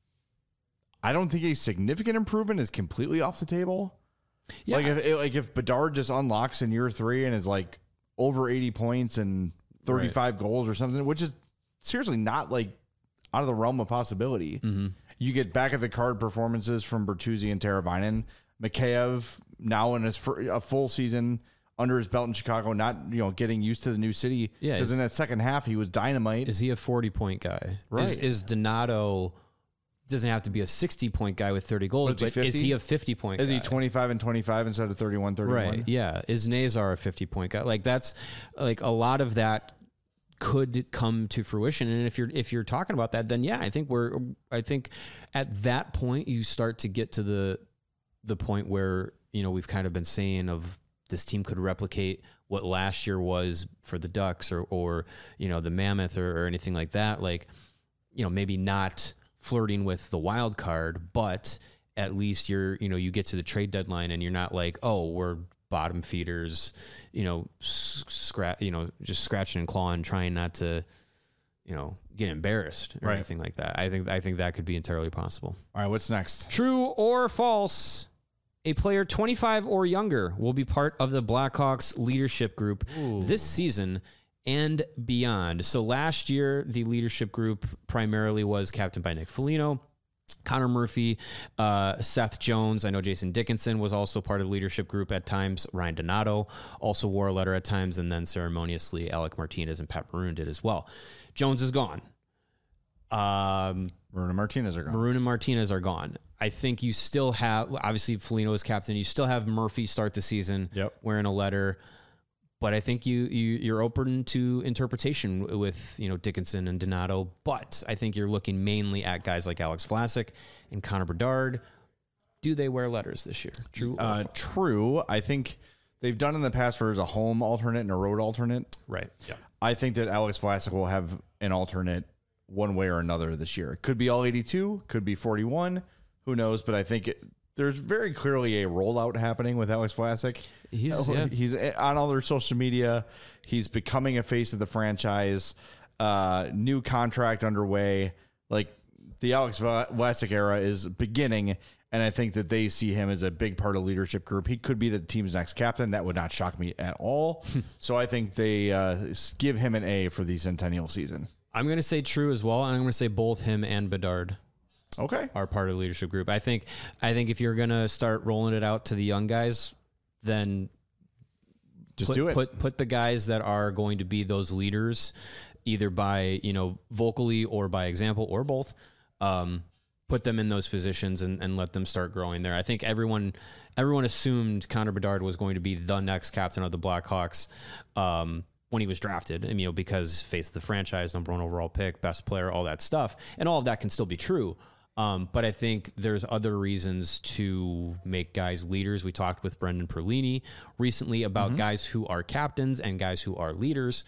a significant improvement is completely off the table. Yeah. If Bedard just unlocks in year 3 and is like over 80 points and 35 goals or something, which is seriously not like out of the realm of possibility. Mm-hmm. You get back at the card performances from Bertuzzi and Teravainen. Mikheyev now in a full season under his belt in Chicago, not getting used to the new city. Yeah, because in that second half he was dynamite. Is he a 40-point guy? Right. Is Donato doesn't have to be a 60-point guy with 30 goals, but is he a 50-point guy? Is he 25 and 25 instead of 31, 31? Right. Yeah. Is Nazar a 50-point guy? Like, that's like a lot of that could come to fruition. And if you're talking about that, then yeah, I think at that point you start to get to the point where, we've kind of been saying of this team could replicate what last year was for the Ducks or the Mammoth or anything like that. Like, maybe not flirting with the wild card, but at least you get to the trade deadline and you're not like, oh, we're bottom feeders, just scratching and clawing, trying not to, get embarrassed or anything like that. I think that could be entirely possible. All right, what's next? True or false? A player 25 or younger will be part of the Blackhawks leadership group this season and beyond. So last year, the leadership group primarily was captained by Nick Foligno, Connor Murphy, Seth Jones. I know Jason Dickinson was also part of the leadership group at times. Ryan Donato also wore a letter at times, and then ceremoniously Alec Martinez and Pat Maroon did as well. Jones is gone. Maroon and Martinez are gone. I think you still have, obviously Foligno is captain. You still have Murphy start the season wearing a letter. But I think you're open to interpretation with, Dickinson and Donato. But I think you're looking mainly at guys like Alex Vlasic and Connor Bedard. Do they wear letters this year? True. True. I think they've done in the past where there's a home alternate and a road alternate. Right. Yeah. I think that Alex Vlasic will have an alternate one way or another this year. It could be all 82, could be 41. Who knows? But I think there's very clearly a rollout happening with Alex Vlasic. He's on all their social media. He's becoming a face of the franchise. New contract underway. Like the Alex Vlasic era is beginning, and I think that they see him as a big part of the leadership group. He could be the team's next captain. That would not shock me at all. So I think they give him an A for the Centennial season. I'm going to say true as well, and I'm going to say both him and Bedard. Okay. Are part of the leadership group. I think if you're going to start rolling it out to the young guys, then just do it. Put the guys that are going to be those leaders, either by, vocally or by example or both. Put them in those positions and let them start growing there. I think everyone assumed Connor Bedard was going to be the next captain of the Blackhawks when he was drafted, because face of the franchise, number 1 overall pick, best player, all that stuff. And all of that can still be true. But I think there's other reasons to make guys leaders. We talked with Brendan Perlini recently about guys who are captains and guys who are leaders.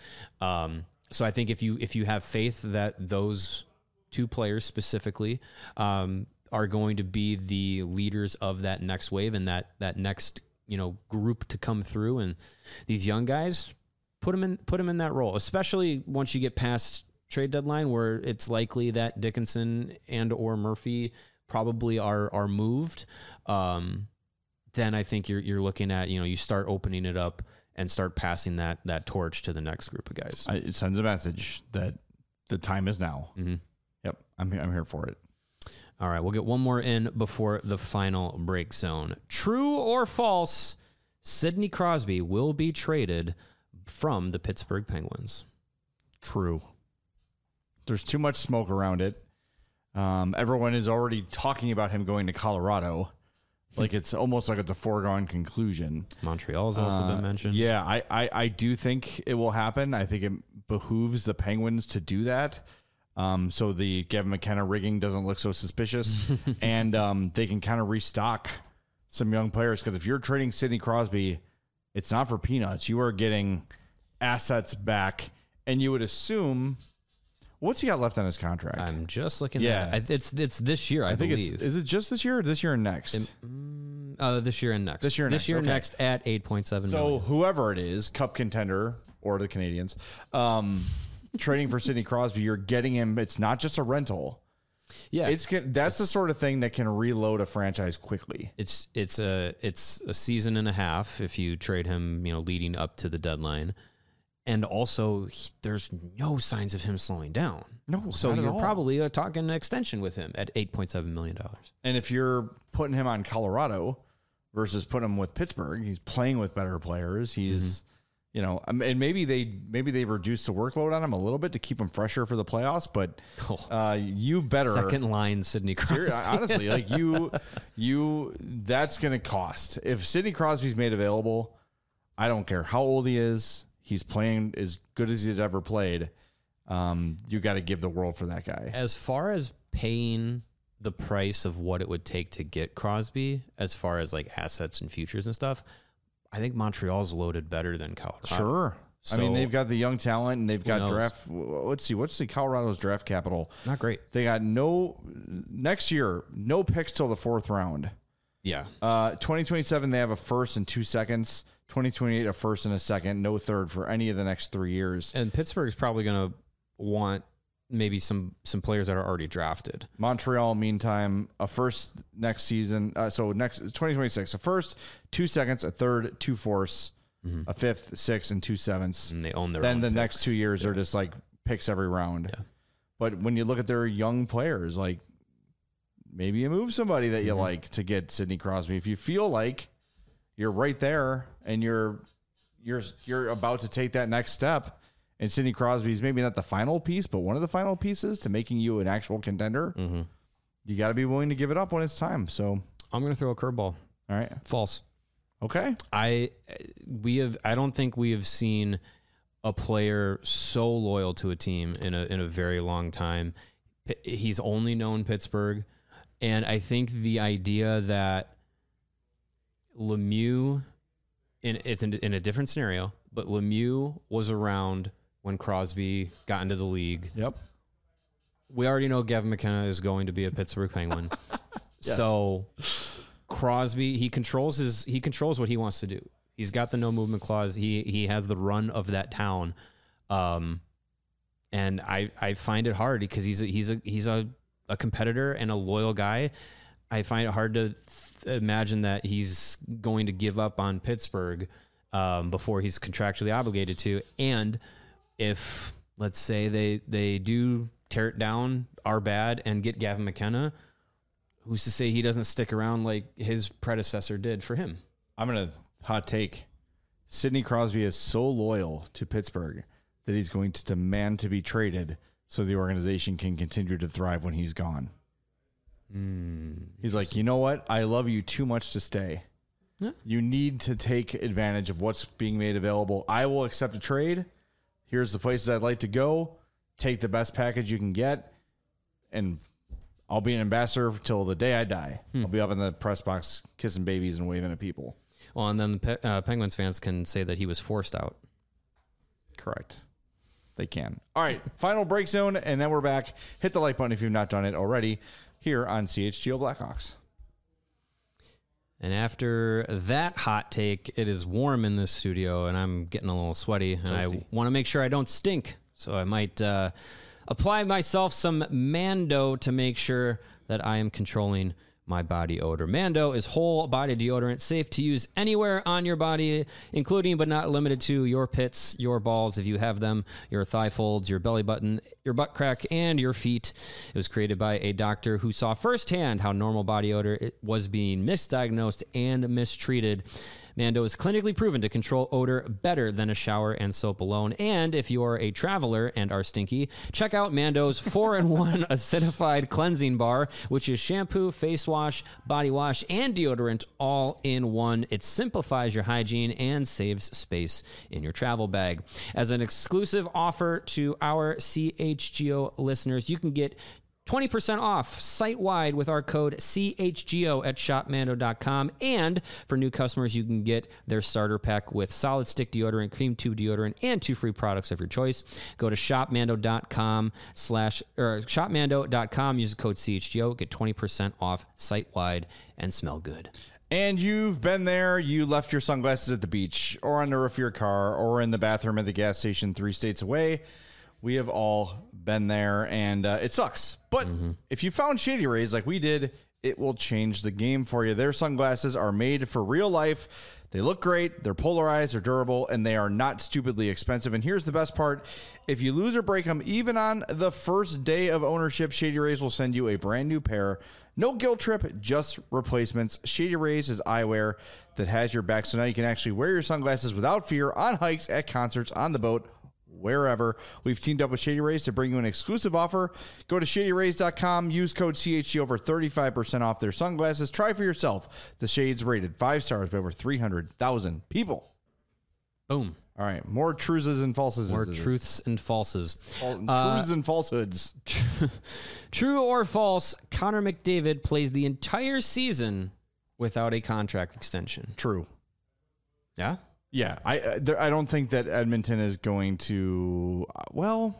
So I think if you have faith that those two players specifically are going to be the leaders of that next wave and that next group to come through, and these young guys, put them in that role, especially once you get past trade deadline, where it's likely that Dickinson and or Murphy probably are moved. Then I think you're looking at, you start opening it up and start passing that torch to the next group of guys. It sends a message that the time is now. Mm-hmm. Yep. I'm here for it. All right. We'll get one more in before the final break zone. True or false, Sidney Crosby will be traded from the Pittsburgh Penguins? True. There's too much smoke around it. Everyone is already talking about him going to Colorado. Like it's almost like it's a foregone conclusion. Montreal's also been mentioned. Yeah, I do think it will happen. I think it behooves the Penguins to do that. So the Gavin McKenna rigging doesn't look so suspicious. And they can kind of restock some young players. Because if you're trading Sidney Crosby, it's not for peanuts. You are getting assets back. And you would assume... What's he got left on his contract? I'm just looking at it. It's this year, I believe. Is it just this year or this year and next? This year and next. This year and next at $8.7 million. So whoever it is, Cup contender or the Canadians, trading for Sidney Crosby, you're getting him. It's not just a rental. Yeah, that's the sort of thing that can reload a franchise quickly. It's a season and a half if you trade him, leading up to the deadline. And also, there's no signs of him slowing down. No, so you're probably talking an extension with him at $8.7 million. And if you're putting him on Colorado versus putting him with Pittsburgh, he's playing with better players. He's, and maybe they reduced the workload on him a little bit to keep him fresher for the playoffs. But you better second line Sidney Crosby. Honestly, like you, that's going to cost. If Sidney Crosby's made available, I don't care how old he is. He's playing as good as he'd ever played. You got to give the world for that guy. As far as paying the price of what it would take to get Crosby, as far as like assets and futures and stuff, I think Montreal's loaded better than Colorado. Sure. So, I mean, they've got the young talent and they've got draft. Let's see. What's the Colorado's draft capital? Not great. They got next year, no picks till the 4th round. Yeah. 2027, they have a first and 2 seconds. 2028, a first and a second, no third for any of the next 3 years. And Pittsburgh's probably going to want maybe some players that are already drafted. Montreal, meantime, a first next season. So next 2026, a first, 2 seconds, a third, 2 fourths, a fifth, 6, and 2 sevenths. And they own their Then own the picks. Next 2 years are just like picks every round. Yeah. But when you look at their young players, like maybe you move somebody that you like to get Sidney Crosby. If you feel like you're right there and you're about to take that next step, and Sidney Crosby's maybe not the final piece, but one of the final pieces to making you an actual contender, you got to be willing to give it up when it's time. So I'm going to throw a curveball. All right. False. Okay. I don't think we have seen a player so loyal to a team in a very long time. He's only known Pittsburgh, and I think the idea that Lemieux, it's in a different scenario, but Lemieux was around when Crosby got into the league. Yep. We already know Gavin McKenna is going to be a Pittsburgh Penguin. Yes. So Crosby, he controls what he wants to do. He's got the no movement clause. He has the run of that town. And I find it hard because he's a competitor and a loyal guy. I find it hard to imagine that he's going to give up on Pittsburgh before he's contractually obligated to. And if, let's say, they do tear it down, are bad, and get Gavin McKenna, who's to say he doesn't stick around like his predecessor did for him? I'm going to hot take. Sidney Crosby is so loyal to Pittsburgh that he's going to demand to be traded so the organization can continue to thrive when he's gone. He's like, you know what? I love you too much to stay. Yeah. You need to take advantage of what's being made available. I will accept a trade. Here's the places I'd like to go. Take the best package you can get, and I'll be an ambassador till the day I die. I'll be up in the press box kissing babies and waving at people. Well, and then the Penguins fans can say that he was forced out. Correct. They can. All right, final break zone, and then we're back. Hit the like button if you've not done it already here on CHGO Blackhawks. And after that hot take, it is warm in this studio, and I'm getting a little sweaty, and I want to make sure I don't stink. So I might apply myself some Mando to make sure that I am controlling my body odor. Mando is whole body deodorant, safe to use anywhere on your body, including but not limited to your pits, your balls, if you have them, your thigh folds, your belly button, your butt crack, and your feet. It was created by a doctor who saw firsthand how normal body odor was being misdiagnosed and mistreated. Mando is clinically proven to control odor better than a shower and soap alone. And if you're a traveler and are stinky, check out Mando's 4-in-1 acidified cleansing bar, which is shampoo, face wash, body wash, and deodorant all in one. It simplifies your hygiene and saves space in your travel bag. As an exclusive offer to our CHGO listeners, you can get 20% off site-wide with our code CHGO at shopmando.com. And for new customers, you can get their starter pack with solid stick deodorant, cream tube deodorant, and 2 free products of your choice. Go to shopmando.com, use the code CHGO, get 20% off site-wide, and smell good. And you've been there, you left your sunglasses at the beach or on the roof of your car or in the bathroom at the gas station 3 states away. We have all been there, and it sucks. But if you found Shady Rays like we did, it will change the game for you. Their sunglasses are made for real life. They look great. They're polarized. They're durable, and they are not stupidly expensive. And here's the best part. If you lose or break them, even on the first day of ownership, Shady Rays will send you a brand new pair. No guilt trip, just replacements. Shady Rays is eyewear that has your back, so now you can actually wear your sunglasses without fear on hikes, at concerts, on the boat, wherever. We've teamed up with Shady Rays to bring you an exclusive offer. Go to shadyrays.com, use code CHG over 35% off their sunglasses. Try for yourself. The shades rated 5 stars by over 300,000 people. Boom. All right, more truths and falses. More truths and falses. Truths and falsehoods. True or false, Connor McDavid plays the entire season without a contract extension. True. Yeah? Yeah, I don't think that Edmonton is going to. Well,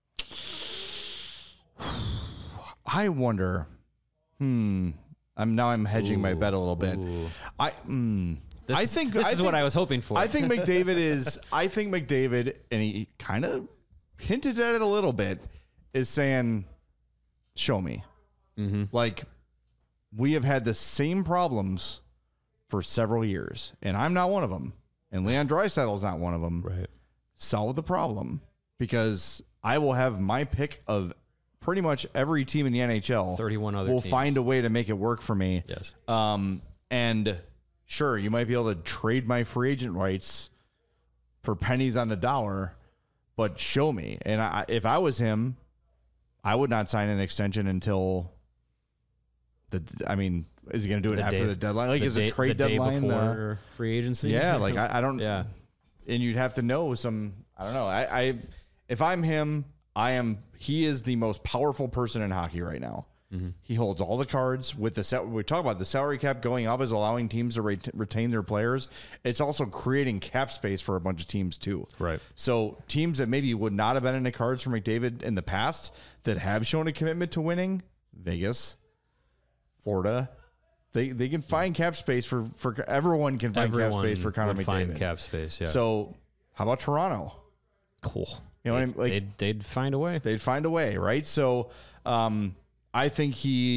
I wonder. I'm hedging my bet a little bit. I think this is what I was hoping for. I think McDavid, and he kind of hinted at it a little bit, is saying, "Show me." Like, we have had the same problems for several years, and I'm not one of them. And Leon Draisaitl's not one of them. Right. Solve the problem, because I will have my pick of pretty much every team in the NHL. 31 other will teams. Find a way to make it work for me. Yes. And sure, you might be able to trade my free agent rights for pennies on the dollar, but show me. And if I was him, I would not sign an extension until Is he going to do it after the deadline? Like, is a trade the deadline day before free agency? Yeah, like I don't. Yeah, and you'd have to know some. I don't know. I if I'm him, he is the most powerful person in hockey right now. Mm-hmm. He holds all the cards with we talk about the salary cap going up is allowing teams to retain their players. It's also creating cap space for a bunch of teams too. Right. So teams that maybe would not have been in the cards for McDavid in the past that have shown a commitment to winning, Vegas, Florida, they can find cap space for everyone can find cap space for Connor McDavid. Find cap space. Yeah. So how about Toronto? Cool. You know what I mean? Like, they'd find a way. They'd find a way, right? So, I think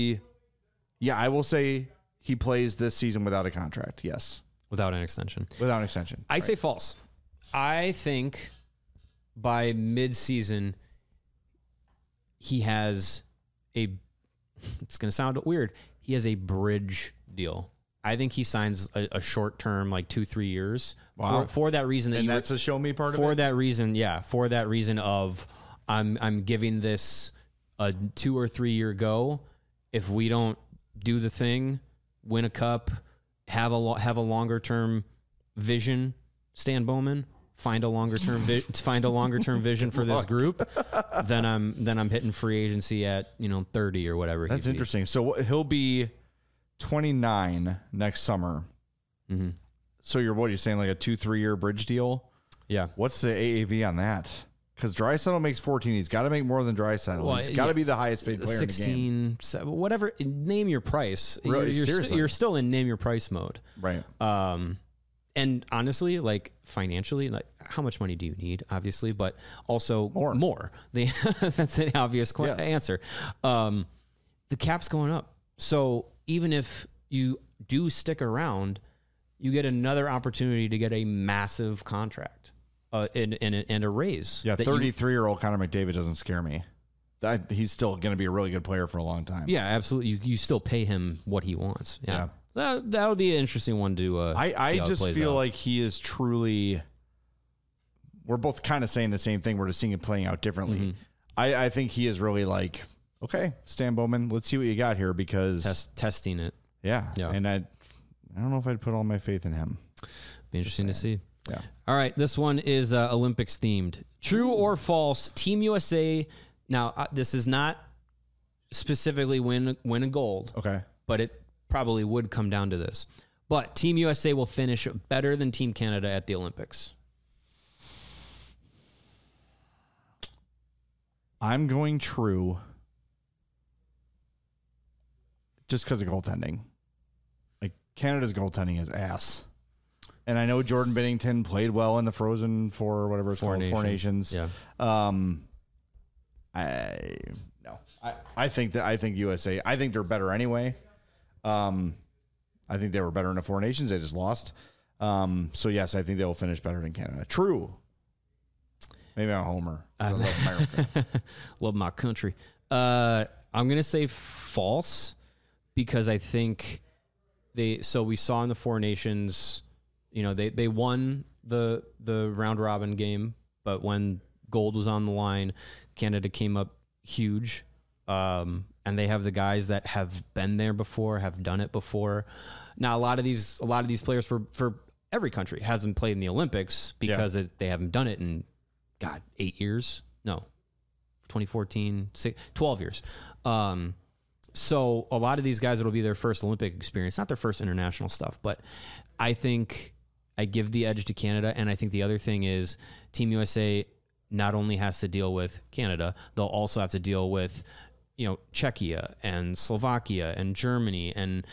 I will say he plays this season without a contract. Yes. Without an extension. Without an extension. I say false. I think by mid-season, he has it's going to sound weird, he has a bridge deal. I think he signs a short term, like 2-3 years. Wow. For that reason that that's a show me part of it? For that reason, yeah. For that reason of I'm giving this a 2 or 3 year go. If we don't do the thing, win a cup, have a longer term vision, Stan Bowman, find a longer term vision for this group, then I'm hitting free agency at 30 or whatever. That's interesting. So he'll be 29 next summer. Mm-hmm. So what are you saying, like a 2-3 year bridge deal? Yeah. What's the AAV on that? Because Draisaitl makes 14. He's got to make more than Draisaitl. Well, he's got to be the highest paid player 16, in the game. Whatever. Name your price. Really, you're still in name your price mode. Right. And honestly, like financially, like how much money do you need? Obviously, but also more. That's an obvious answer. The cap's going up. So even if you do stick around, you get another opportunity to get a massive contract and a raise. Yeah, 33-year-old Connor McDavid doesn't scare me. He's still going to be a really good player for a long time. Yeah, absolutely. You still pay him what he wants. Yeah. That would be an interesting one to I just feel like he is truly... We're both kind of saying the same thing. We're just seeing it playing out differently. Mm-hmm. I think he is really like, okay, Stan Bowman, let's see what you got here because... Testing it. Yeah. And I don't know if I'd put all my faith in him. Be interesting to see. Yeah. All right. This one is Olympics themed. True or false? Team USA. Now, this is not specifically win a gold. Okay. But it probably would come down to this. But Team USA will finish better than Team Canada at the Olympics. I'm going true just because of goaltending. Like, Canada's goaltending is ass. And I know Jordan Binnington played well in the Frozen Four or whatever it's called, Four Nations. Yeah. I think USA. I think they're better anyway. I think they were better in the Four Nations. They just lost. So yes, I think they will finish better than Canada. True. Maybe I'm a homer. I love America. Love my country. I'm gonna say false because I think we saw in the Four Nations. They won the round robin game, but when gold was on the line, Canada came up huge. And they have the guys that have been there before, have done it before. Now, a lot of these players for every country hasn't played in the Olympics because they haven't done it in 8 years. No, 2014, 12 years. So a lot of these guys, it'll be their first Olympic experience, not their first international stuff. But I think I give the edge to Canada. And I think the other thing is Team USA not only has to deal with Canada, they'll also have to deal with, Czechia and Slovakia and Germany. And,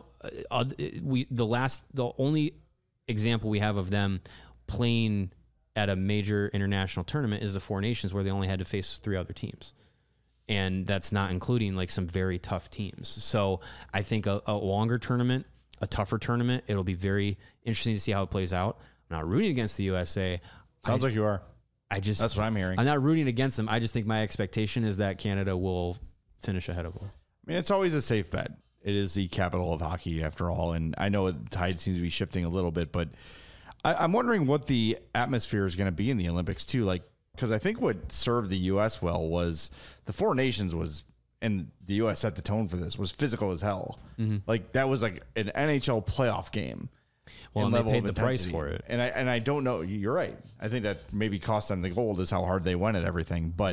the only example we have of them playing at a major international tournament is the Four Nations, where they only had to face 3 other teams. And that's not including like some very tough teams. So I think a longer tournament, a tougher tournament, it'll be very interesting to see how it plays out. I'm not rooting against the USA. Sounds like you are. That's what I'm hearing. I'm not rooting against them. I just think my expectation is that Canada will finish ahead of them. I mean, it's always a safe bet. It is the capital of hockey after all. And I know the tide seems to be shifting a little bit, but I'm wondering what the atmosphere is going to be in the Olympics too. Like, because I think what served the U.S. well was the Four Nations was and the U.S. set the tone for this, was physical as hell. Mm-hmm. Like that was like an NHL playoff game. Well, and they paid the price for it. And I don't know. You're right. I think that maybe cost them the gold is how hard they went at everything. But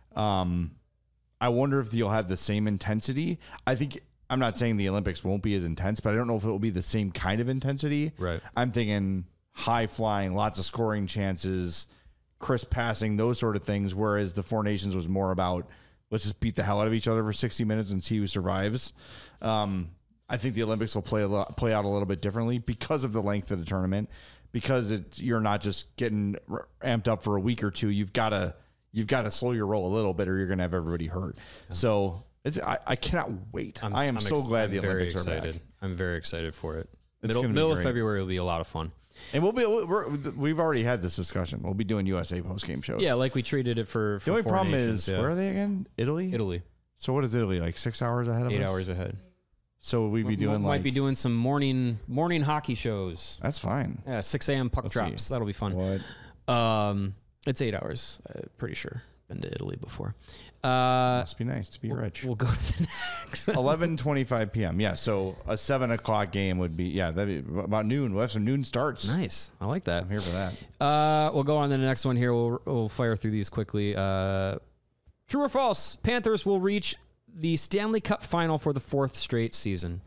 I wonder if you'll have the same intensity. I'm not saying the Olympics won't be as intense, but I don't know if it will be the same kind of intensity. Right. I'm thinking high flying, lots of scoring chances, crisp passing, those sort of things. Whereas the Four Nations was more about let's just beat the hell out of each other for 60 minutes and see who survives. I think the Olympics will play out a little bit differently because of the length of the tournament, because you're not just getting amped up for a week or two. You've got to slow your roll a little bit, or you're going to have everybody hurt. Yeah. So I cannot wait. I'm so glad the Olympics are back. I'm very excited for it. Middle of February will be a lot of fun. And we've already had this discussion. We'll be doing USA post-game shows. Yeah, like we treated it for the only Four problem Nations, is, where are they again? Italy? So what is Italy, like 6 hours ahead of us? 8 hours ahead. So we'd be doing might be doing some morning hockey shows. That's fine. Yeah, 6 a.m. puck drops. That'll be fun. What? It's 8 hours. Pretty sure. Been to Italy before. Must be nice to be rich. We'll go to the next 11:25 p.m. Yeah, so a 7 o'clock game would be that'd be about noon. We'll have some noon starts. Nice. I like that. I'm here for that. We'll go on to the next one here. We'll fire through these quickly. True or false? Panthers will reach the Stanley Cup final for the 4th straight season.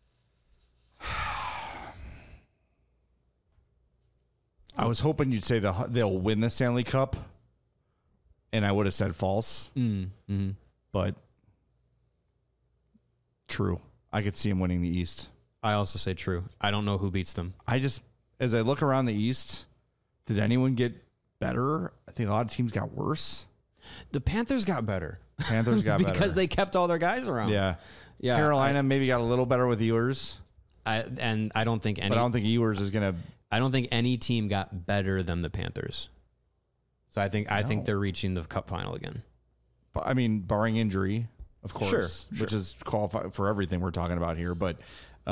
I was hoping you'd say they'll win the Stanley Cup, and I would have said false. Mm-hmm. But true. I could see them winning the East. I also say true. I don't know who beats them. As I look around the East, did anyone get better? I think a lot of teams got worse. The Panthers got better. Panthers got better. Because they kept all their guys around. Yeah. Carolina maybe got a little better with Ewers. I don't think any. But I don't think Ewers is going to. I don't think any team got better than the Panthers. So I think they're reaching the Cup final again. But, I mean, barring injury, of course, sure. Which is qualified for everything we're talking about here. But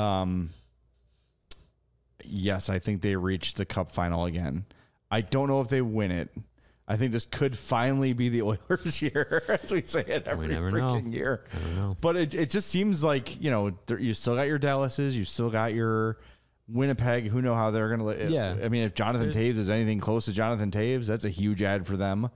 yes, I think they reached the Cup final again. I don't know if they win it. I think this could finally be the Oilers' year, as we say it every freaking year. I don't know. But it just seems like, you still got your Dallases, you still got your Winnipeg. Who know how they're going to... Yeah. I mean, if Jonathan Toews is anything close to Jonathan Toews, that's a huge ad for them.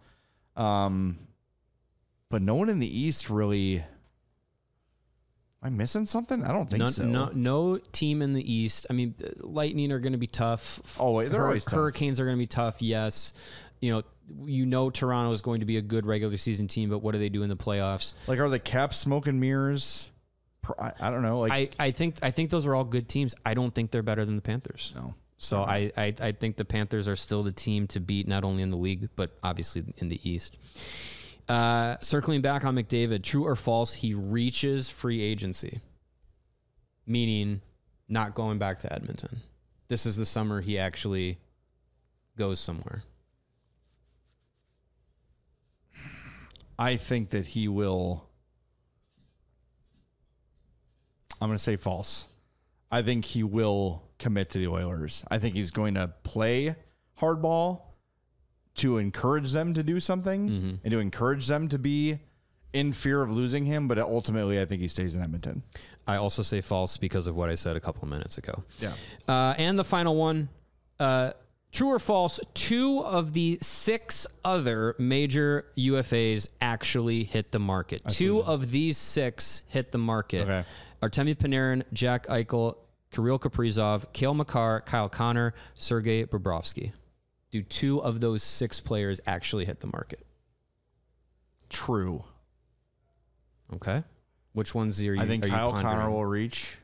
But no one in the East really... Am I missing something? I don't think so. No team in the East. I mean, Lightning are going to be tough. Oh, wait, they're always tough. Hurricanes are going to be tough, yes. Toronto is going to be a good regular season team, but what do they do in the playoffs? Like, are the Caps smoke and mirrors? I don't know. Like, I think those are all good teams. I don't think they're better than the Panthers. No. So I think the Panthers are still the team to beat, not only in the league, but obviously in the East. Circling back on McDavid, true or false, he reaches free agency, meaning not going back to Edmonton. This is the summer he actually goes somewhere. I think that he will. I'm going to say false. I think he will commit to the Oilers. I think he's going to play hardball to encourage them to do something and to encourage them to be in fear of losing him. But ultimately, I think he stays in Edmonton. I also say false because of what I said a couple of minutes ago. Yeah. And the final one, true or false, 2 of the 6 other major UFAs actually hit the market. 2 of these 6 hit the market. Okay. Artemi Panarin, Jack Eichel, Kirill Kaprizov, Cale Makar, Kyle Connor, Sergei Bobrovsky. Do 2 of those 6 players actually hit the market? True. Okay. Which ones are you? I think Kyle pondering? Connor will reach.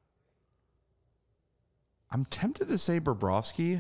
I'm tempted to say Bobrovsky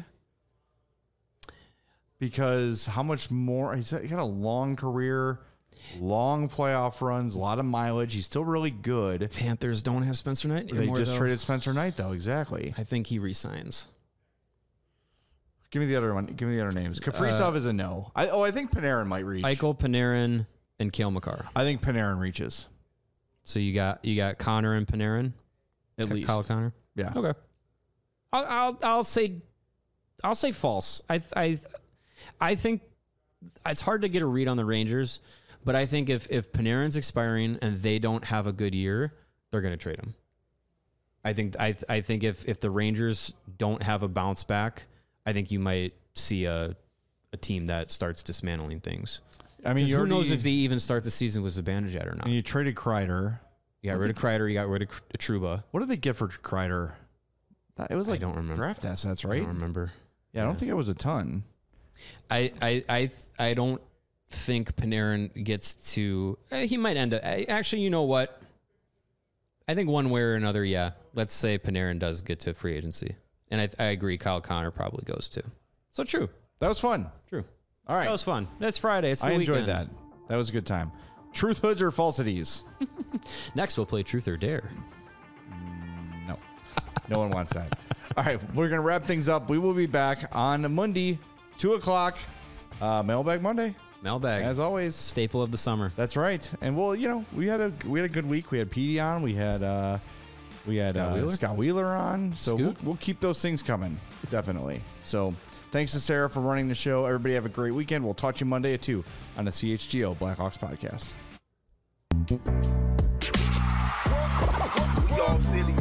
because how much more? He's got a long career, long playoff runs, a lot of mileage. He's still really good. Panthers don't have Spencer Knight anymore. They just traded Spencer Knight, though. Exactly. I think he resigns. Give me the other one. Give me the other names. Kaprizov is a no. I think Panarin might reach. Eichel, Panarin, and Cale Makar. I think Panarin reaches. So you got Connor and Panarin, at least Kyle Connor. Yeah. Okay. I'll say false. I think it's hard to get a read on the Rangers, But I think if Panarin's expiring and they don't have a good year, they're going to trade him. I think if the Rangers don't have a bounce back, I think you might see a team that starts dismantling things. I mean, who knows if they even start the season with Zibanejad or not? And you traded Kreider. You got rid of Kreider. You got rid of Trouba. What did they get for Kreider? It was like I don't remember. Draft assets, right? I don't remember. Yeah, I don't think it was a ton. I don't think Panarin gets to. He might end up. Actually, you know what? I think one way or another, yeah. Let's say Panarin does get to free agency, and I agree. Kyle Connor probably goes too. So true. That was fun. True. All right. That was fun. That's Friday. It's the weekend. I enjoyed that. That was a good time. Truth, hoods, or falsities? Next, we'll play Truth or Dare. No. No one wants that. All right. We're going to wrap things up. We will be back on Monday, 2 o'clock. Mailbag Monday. Mailbag. As always. Staple of the summer. That's right. And well, we had a good week. We had Petey on. We had Scott Wheeler on. So we'll keep those things coming. Definitely. So thanks to Sarah for running the show. Everybody have a great weekend. We'll talk to you Monday at 2 on the CHGO Blackhawks podcast. We all silly.